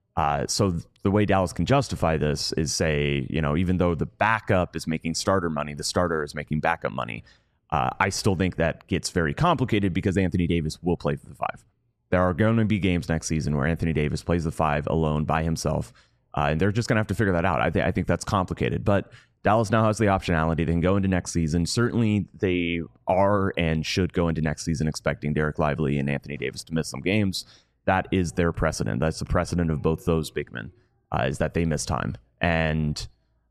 So the way Dallas can justify this is say, even though the backup is making starter money, the starter is making backup money. I still think that gets very complicated because Anthony Davis will play for the 5. There are going to be games next season where Anthony Davis plays the 5 alone by himself. And they're just going to have to figure that out. I think that's complicated, but Dallas now has the optionality. They can go into next season. Certainly they are and should go into next season expecting Derek Lively and Anthony Davis to miss some games. That is their precedent. That's the precedent of both those big men, is that they miss time. And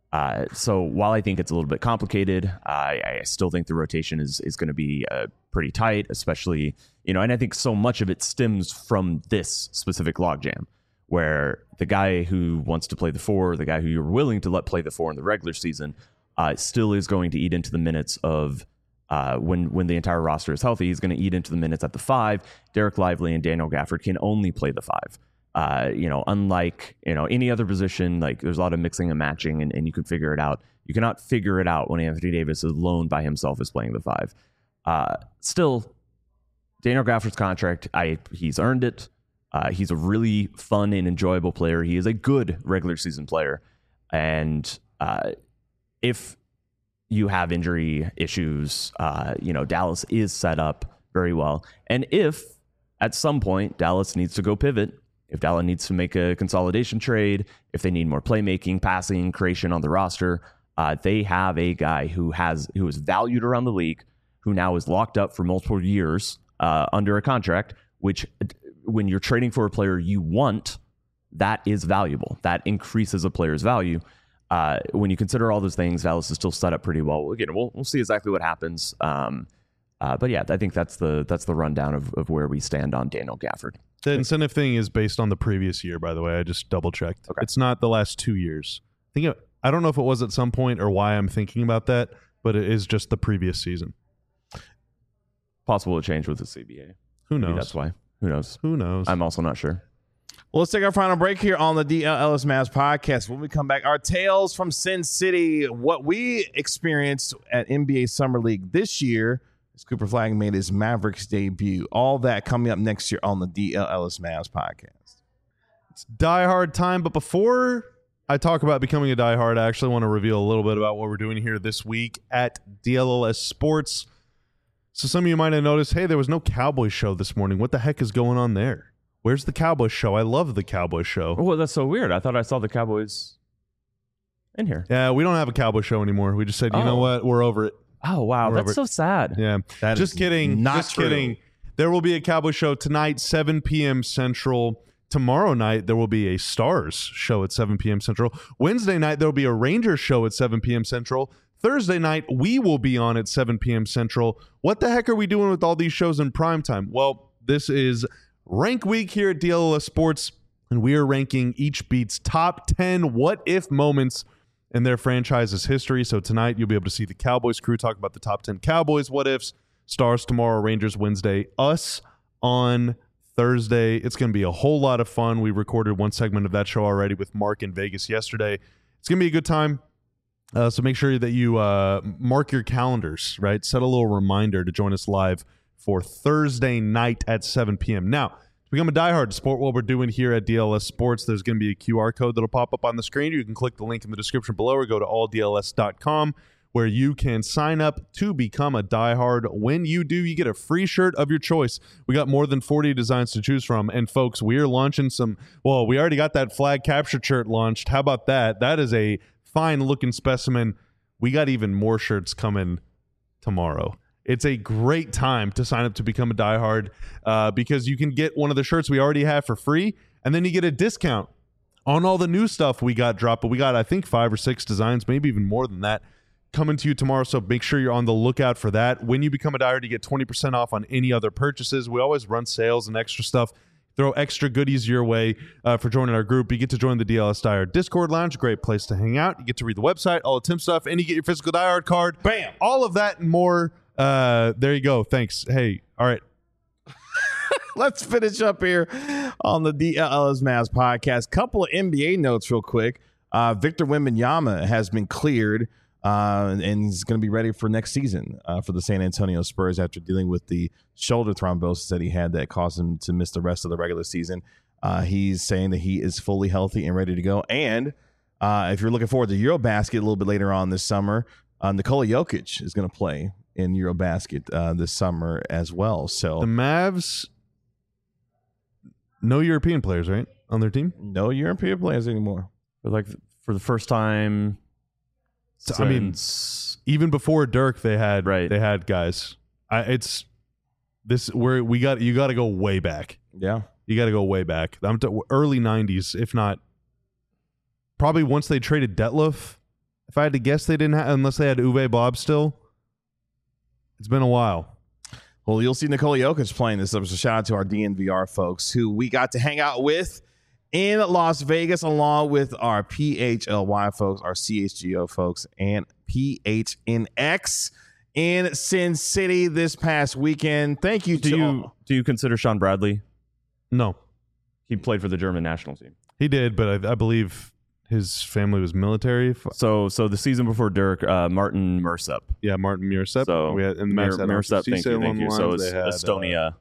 so while I think it's a little bit complicated, I still think the rotation is going to be pretty tight, especially, and I think so much of it stems from this specific logjam, where the guy who wants to play the 4, the guy who you're willing to let play the 4 in the regular season, still is going to eat into the minutes of when the entire roster is healthy. He's going to eat into the minutes at the 5. Derek Lively and Daniel Gafford can only play the 5. Unlike any other position, like there's a lot of mixing and matching, and you can figure it out. You cannot figure it out when Anthony Davis is alone by himself is playing the 5. Still, Daniel Gafford's contract, he's earned it. He's a really fun and enjoyable player. He is a good regular season player. And if you have injury issues, Dallas is set up very well. And if at some point Dallas needs to go pivot, if Dallas needs to make a consolidation trade, if they need more playmaking, passing, creation on the roster, they have a guy who is valued around the league, who now is locked up for multiple years under a contract, which when you're trading for a player you want, that is valuable. That increases a player's value. When you consider all those things, Dallas is still set up pretty well. Again, we'll see exactly what happens. But yeah, I think that's the rundown of where we stand on Daniel Gafford. The incentive thing is based on the previous year, by the way. I just double checked. Okay. It's not the last 2 years. I don't know if it was at some point or why I'm thinking about that, but it is just the previous season. Possible to change with the CBA. Who knows? Maybe that's why. Who knows? Who knows? I'm also not sure. Well, let's take our final break here on the DL Ellis Mavs podcast. When we come back, our tales from Sin City, what we experienced at NBA Summer League this year as Cooper Flagg made his Mavericks debut. All that coming up next year on the DL Ellis Mavs podcast. It's Die Hard time, but before I talk about becoming a diehard, I actually want to reveal a little bit about what we're doing here this week at DLLS Sports. So some of you might have noticed, hey, there was no Cowboys show this morning. What the heck is going on there? Where's the Cowboys show? I love the Cowboys show. Oh, that's so weird. I thought I saw the Cowboys in here. Yeah, we don't have a Cowboy show anymore. We just said, you know what? We're over it. Oh, wow. That's so sad. Yeah. That just is kidding. not Just true. kidding. There will be a Cowboy show tonight, 7 p.m. Central. Tomorrow night, there will be a Stars show at 7 p.m. Central. Wednesday night, there will be a Rangers show at 7 p.m. Central. Thursday night, we will be on at 7 p.m. Central. What the heck are we doing with all these shows in prime time? Well, this is Rank Week here at DLLS Sports, and we are ranking each beat's top 10 what-if moments in their franchise's history. So tonight, you'll be able to see the Cowboys crew talk about the top 10 Cowboys what-ifs. Stars tomorrow, Rangers Wednesday, us on Thursday. It's going to be a whole lot of fun. We recorded one segment of that show already with Mark in Vegas yesterday. It's going to be a good time. So make sure that you mark your calendars, right? Set a little reminder to join us live for Thursday night at 7 p.m. Now, to become a diehard, to support what we're doing here at DLS Sports, there's going to be a QR code that'll pop up on the screen. You can click the link in the description below or go to alldls.com, where you can sign up to become a diehard. When you do, you get a free shirt of your choice. We got more than 40 designs to choose from. And folks, we are launching we already got that flag capture shirt launched. How about that? That is a fine looking specimen. We got even more shirts coming tomorrow. It's a great time to sign up to become a diehard because you can get one of the shirts we already have for free, and then you get a discount on all the new stuff we got dropped. But we got, I think, 5 or 6 designs, maybe even more than that, coming to you tomorrow. So make sure you're on the lookout for that. When you become a diehard, you get 20% off on any other purchases. We always run sales and extra stuff. Throw extra goodies your way for joining our group. You get to join the DLS Diehard Discord Lounge, great place to hang out. You get to read the website, all the Tim stuff, and you get your physical diehard card. Bam! All of that and more. There you go. Thanks. Hey, all right. Let's finish up here on the DLLS Mavs podcast. Couple of NBA notes real quick. Victor Wembanyama has been cleared and is going to be ready for next season for the San Antonio Spurs after dealing with the shoulder thrombosis that he had that caused him to miss the rest of the regular season. He's saying that he is fully healthy and ready to go. And if you're looking forward to Eurobasket a little bit later on this summer, Nikola Jokic is going to play in Eurobasket this summer as well. So the Mavs, no European players, right, on their team? No European players anymore. For the first time I mean, even before Dirk, they had guys. It's this where you got to go way back. Yeah, you got to go way back. I'm early '90s, if not probably once they traded Detlef. If I had to guess, they didn't have, unless they had Uwe Bob still. It's been a while. Well, you'll see Nikola Jokic playing this. So shout out to our DNVR folks who we got to hang out with in Las Vegas, along with our PHLY folks, our CHGO folks, and PHNX in Sin City this past weekend. Thank you Do you consider Sean Bradley? No. He played for the German national team. He did, but I believe his family was military. So the season before Dirk, Martin Mersep. Yeah, Martin Mersep. So we had in the Mersep, thank you. So it's Estonia.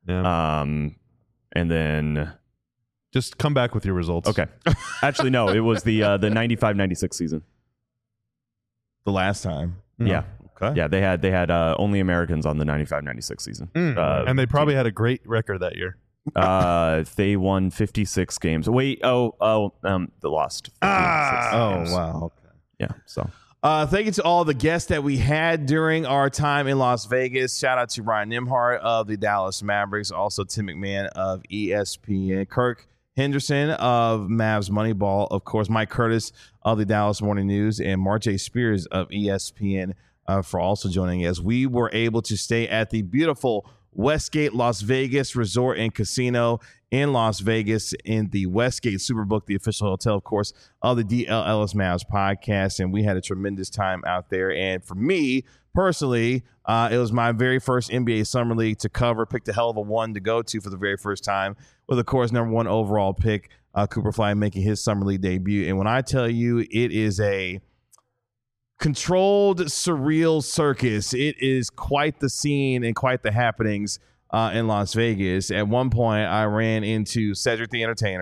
And then just come back with your results. Okay. Actually, no, it was the 95-96 season. The last time. Yeah. Okay. Yeah, they had only Americans on the 95-96 season. And they probably had a great record that year. They won 56 games. Wait, they lost. Oh, wow. Okay. Yeah, so. Thank you to all the guests that we had during our time in Las Vegas. Shout out to Ryan Nimhart of the Dallas Mavericks, also Tim McMahon of ESPN, Kirk Henderson of Mavs Moneyball, of course, Mike Curtis of the Dallas Morning News, and Marjay Spears of ESPN for also joining us. We were able to stay at the beautiful Westgate Las Vegas Resort and Casino in Las Vegas in the Westgate Superbook, the official hotel, of course, of the DLLS Mavs podcast. And we had a tremendous time out there. And for me personally, it was my very first NBA Summer League to cover. Picked a hell of a one to go to for the very first time with, of course, number 1 overall pick, Cooper Flag, making his Summer League debut. And when I tell you it is a controlled, surreal circus, it is quite the scene and quite the happenings in Las Vegas. At one point, I ran into Cedric the Entertainer,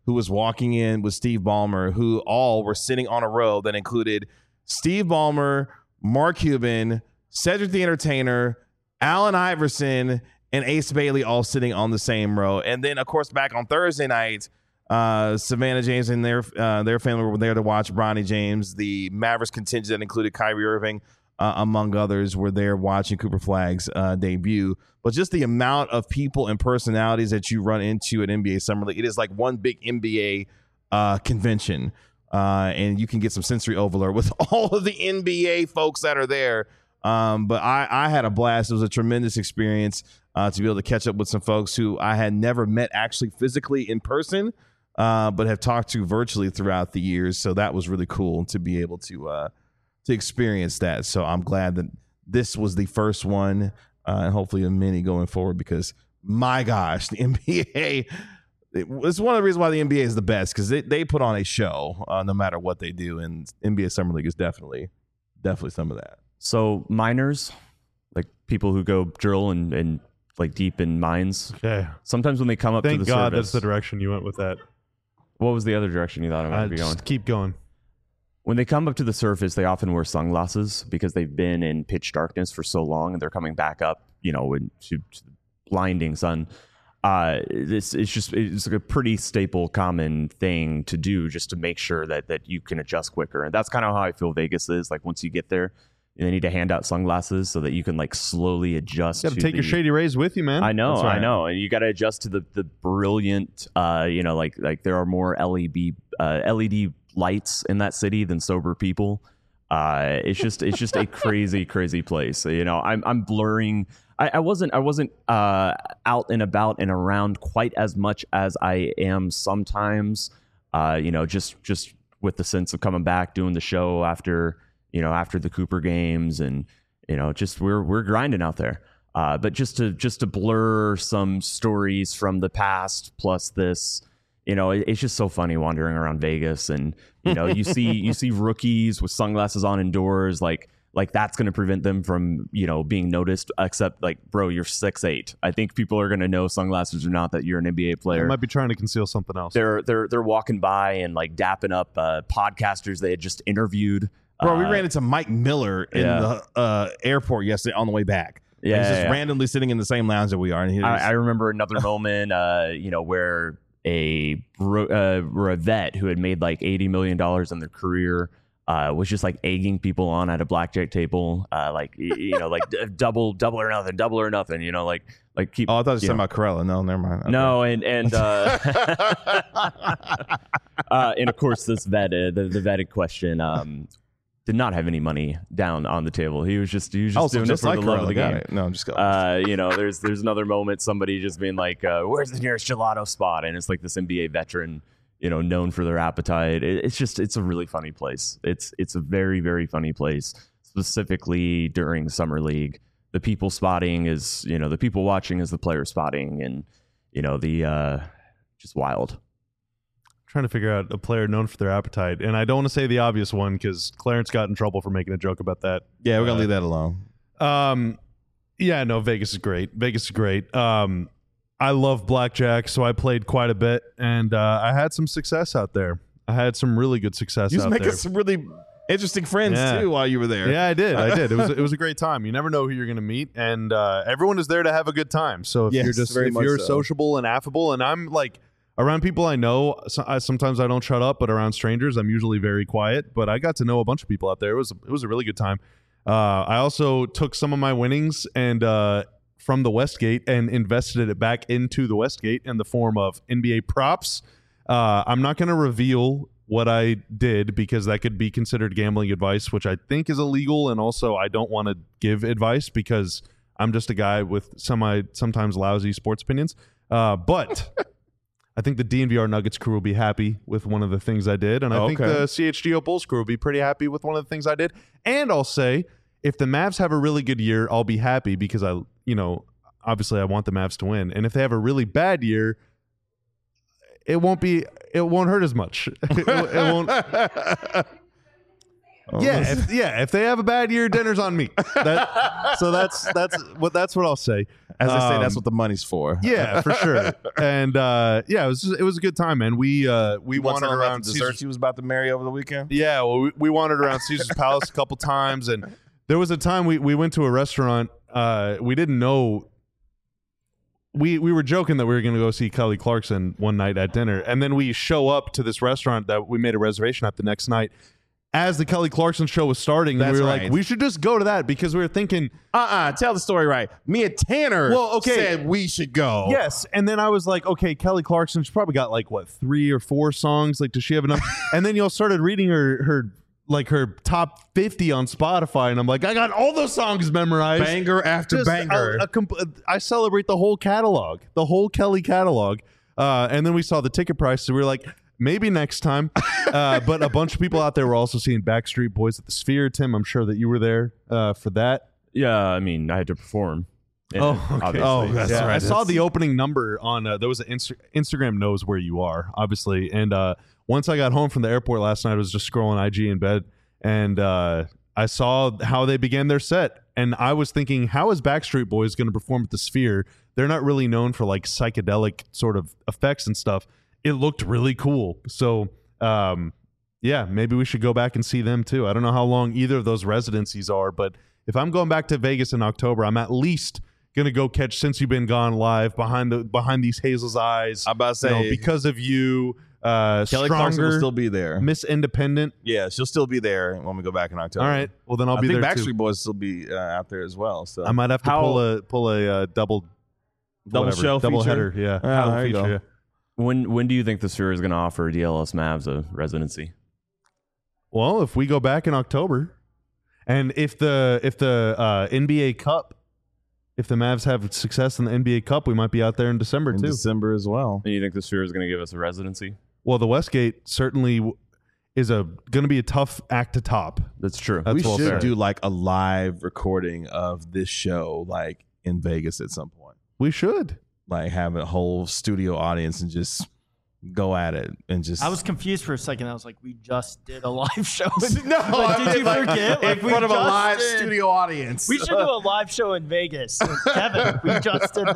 who was walking in with Steve Ballmer, who all were sitting on a row that included Steve Ballmer, Mark Cuban, Cedric the Entertainer, Allen Iverson, and Ace Bailey all sitting on the same row. And then, of course, back on Thursday night, Savannah James and their family were there to watch Bronny James. The Mavericks contingent that included Kyrie Irving, among others, were there watching Cooper Flagg's debut. But just the amount of people and personalities that you run into at NBA Summer League, it is like one big NBA convention. And you can get some sensory overload with all of the NBA folks that are there. But I had a blast. It was a tremendous experience to be able to catch up with some folks who I had never met actually physically in person, but have talked to virtually throughout the years. So that was really cool to be able to experience that. So I'm glad that this was the first one, and hopefully a many going forward, because my gosh, the NBA, it's one of the reasons why the NBA is the best, because they put on a show no matter what they do, and NBA Summer League is definitely some of that. So miners, like people who go drill and like deep in mines. Okay. Sometimes when they come up to the Thank God surface, that's the direction you went with that. What was the other direction you thought I might be going? Just keep going. When they come up to the surface, they often wear sunglasses because they've been in pitch darkness for so long, and they're coming back up, into the blinding sun. It's like a pretty staple, common thing to do, just to make sure that you can adjust quicker. And that's kind of how I feel Vegas is. Like, once you get there, they need to hand out sunglasses so that you can like slowly adjust. You got to take your Shady Rays with you, man. I know, That's right. I know, and you got to adjust to the brilliant. Like there are more LED lights in that city than sober people. It's just a crazy place. I'm blurring. I wasn't out and about and around quite as much as I am sometimes. Just with the sense of coming back, doing the show after the Cooper games, and just we're grinding out there. But just to blur some stories from the past, plus this. It's just so funny wandering around Vegas, and you see rookies with sunglasses on indoors, like that's going to prevent them from being noticed. Except, like, bro, you're 6'8". I think people are going to know, sunglasses or not, that you're an NBA player. They might be trying to conceal something else. They're walking by and like dapping up podcasters they had just interviewed. Bro, we ran into Mike Miller in the airport yesterday on the way back. Yeah, he's just randomly sitting in the same lounge that we are. And I remember another moment, where a vet who had made like $80 million in their career was just like egging people on at a blackjack table, like double or nothing, like keep. Oh, I thought you were talking about Corella. No, never mind. Okay. No, and of course this vet, the vet in question, did not have any money down on the table. He was just doing it for the love of the game. No, I'm just going. There's another moment, somebody just being like, "Where's the nearest gelato spot?" And it's like this NBA veteran, known for their appetite. It's a really funny place. It's a very, very funny place, specifically during Summer League. The people spotting is, the people watching is the player spotting, and just wild. Trying to figure out a player known for their appetite, and I don't want to say the obvious one because Clarence got in trouble for making a joke about that. Yeah, we're gonna leave that alone. Vegas is great. I love blackjack, so I played quite a bit, and I had some success out there. I had some really good success You out was there. making some really interesting friends too while you were there. Yeah, I did. It was a great time. You never know who you're going to meet, and everyone is there to have a good time. So if you're sociable and affable, and I'm like. Around people I know, sometimes I don't shut up, but around strangers, I'm usually very quiet. But I got to know a bunch of people out there. It was a really good time. I also took some of my winnings and from the Westgate and invested it back into the Westgate in the form of NBA props. I'm not going to reveal what I did because that could be considered gambling advice, which I think is illegal. And also, I don't want to give advice because I'm just a guy with sometimes lousy sports opinions. But I think the DNVR Nuggets crew will be happy with one of the things I did. And I think the CHGO Bulls crew will be pretty happy with one of the things I did. And I'll say, if the Mavs have a really good year, I'll be happy because obviously I want the Mavs to win. And if they have a really bad year, it won't hurt as much. It won't. If they have a bad year, dinner's on me. That's what I'll say. As they say, that's what the money's for. Yeah, for sure. And it was a good time, man. We wandered around desserts he was about to marry over the weekend. Yeah, well, we wandered around Caesar's Palace a couple times, and there was a time we went to a restaurant. We didn't know. We were joking that we were going to go see Kelly Clarkson one night at dinner, and then we show up to this restaurant that we made a reservation at the next night as the Kelly Clarkson show was starting. And we were like, we should just go to that because we were thinking, tell the story right. Me and Tanner said we should go. Yes, and then I was like, okay, Kelly Clarkson, she's probably got like 3 or 4 songs. Like, does she have enough? And then y'all started reading her top 50 on Spotify, and I'm like, I got all those songs memorized, banger after banger. I celebrate the whole catalog, the whole Kelly catalog. And then we saw the ticket price, so we were like, maybe next time. But a bunch of people out there were also seeing Backstreet Boys at the Sphere. Tim, I'm sure that you were there for that. Yeah, I mean, I had to perform. Oh, okay. Obviously. That's Yeah, right. I saw the opening number on there was an Instagram knows where you are, obviously. And once I got home from the airport last night, I was just scrolling IG in bed, and I saw how they began their set. And I was thinking, how is Backstreet Boys going to perform at the Sphere? They're not really known for like psychedelic sort of effects and stuff. It looked really cool. So, yeah, maybe we should go back and see them too. I don't know how long either of those residencies are, but if I'm going back to Vegas in October, I'm at least gonna go catch Since You've Been Gone live behind these Hazel's eyes. I'm about to say, Because of You, Kelly Stronger, Clarkson will still be there. Miss Independent. Yeah, she'll still be there when we go back in October. All right, well then I'll be I think there Backstreet too. Boys will still be out there as well. So I might have to pull a double show double feature? header. Yeah, Oh, double there you feature, go. yeah. When do you think the Sphere is going to offer DLS Mavs a residency? Well, if we go back in October, and if the NBA Cup, if the Mavs have success in the NBA Cup, we might be out there in December in too. December as well. And you think the Sphere is going to give us a residency? Well, the Westgate certainly is going to be a tough act to top. That's true. That's We well should said. do like a live recording of this show, like in Vegas at some point. We should. Like have a whole studio audience and just go at it and just. I was confused for a second. I was like, we just did a live show. no, Like, did you forget? in Like, we front of a just live did. studio audience? We should do a live show in Vegas. Kevin, we just did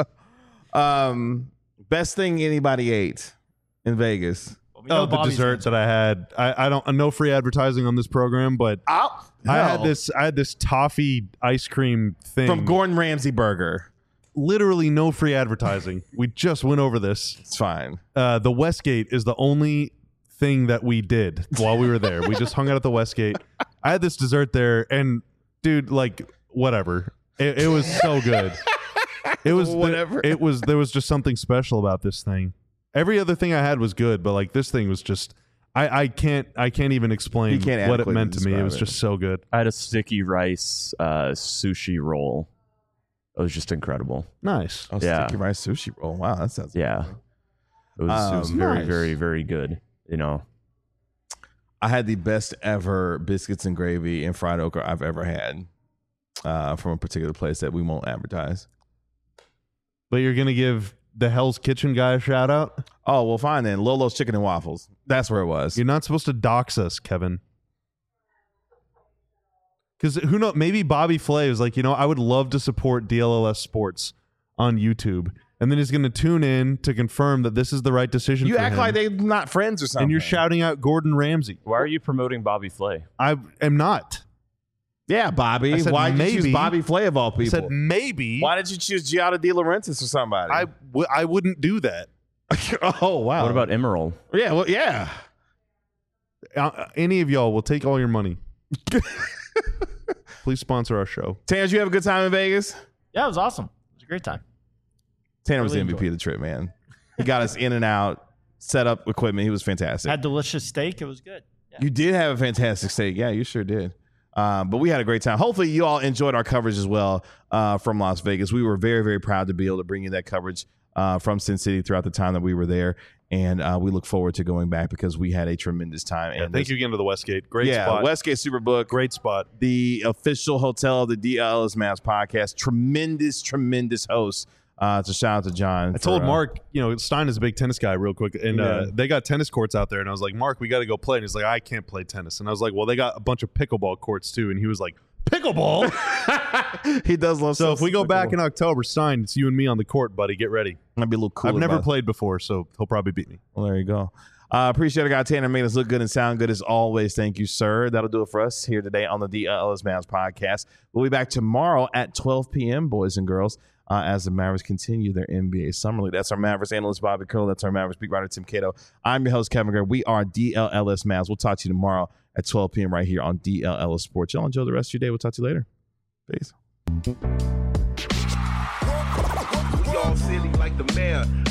that. Best thing anybody ate in Vegas. Well, we know The Bobby's dessert that I had. I don't. No free advertising on this program, but I had this toffee ice cream thing from Gordon Ramsay Burger. Literally no free advertising. We just went over this. It's fine. The Westgate is the only thing that we did while we were there. We just hung out at the Westgate. I had this dessert there, and dude, like whatever. It was so good. It was Whatever. There was just something special about this thing. Every other thing I had was good, but like this thing was just. I can't even explain You can't what it adequately meant to me. It describe was it. just so good. I had a sticky rice sushi roll. It was just incredible. Nice. Oh, Yeah. sticky rice sushi roll. Wow, that sounds Yeah. It was very, Nice. very, very good. You know, I had the best ever biscuits and gravy and fried okra I've ever had from a particular place that we won't advertise. But you're gonna give the Hell's Kitchen guy a shout out? Oh, well, fine then. Lolo's Chicken and Waffles. That's where it was. You're not supposed to dox us, Kevin. Because who knows? Maybe Bobby Flay is like, I would love to support DLLS Sports on YouTube, and then he's going to tune in to confirm that this is the right decision. You for act him. like they're not friends or something. and you're shouting out Gordon Ramsay. why are you promoting Bobby Flay? I am not. Yeah, Bobby. I said Why did you choose maybe. Bobby Flay of all I people? said maybe. Why did you choose Giada De Laurentiis or somebody? I wouldn't do that. Oh, wow. What about Emerald? Yeah, well, yeah. Any of y'all will take all your money. Please sponsor our show. Tanner, did you have a good time in Vegas? Yeah, it was awesome. It was a great time. Tanner was Really the MVP enjoyed of the trip, man. He got us in and out, set up equipment. He was fantastic. Had delicious steak. It was good. Yeah. You did have a fantastic steak. Yeah, you sure did. But we had a great time. Hopefully, you all enjoyed our coverage as well from Las Vegas. We were very, very proud to be able to bring you that coverage from Sin City throughout the time that we were there. And we look forward to going back because we had a tremendous time. Yeah, And thank you again to the Westgate. Great yeah, spot. Westgate Superbook. Great spot. The official hotel of the DLS Mavs podcast. Tremendous host. So shout out to John. I told Mark, Stein is a big tennis guy real quick, and they got tennis courts out there, and I was like, Mark, we got to go play. And he's like, I can't play tennis. And I was like, well, they got a bunch of pickleball courts too. And he was like, Pickleball. He does love. So if we go back pickleball. in October, signed, it's you and me on the court, buddy. Get ready. Might be a little cool. I've never played before, so he'll probably beat me. Well, there you go. Appreciate it, guy Tanner, making us look good and sound good as always. Thank you, sir. That'll do it for us here today on the DLS Mavs podcast. We'll be back tomorrow at 12 p.m., boys and girls, as the Mavericks continue their NBA Summer League. That's our Mavericks analyst, Bobby Curl. That's our Mavericks beat writer, Tim Cato. I'm your host, Kevin Gray. We are DLS Mavs. We'll talk to you tomorrow at 12 p.m. right here on DLS Sports. Y'all enjoy the rest of your day. We'll talk to you later. Peace. We all silly like the mayor.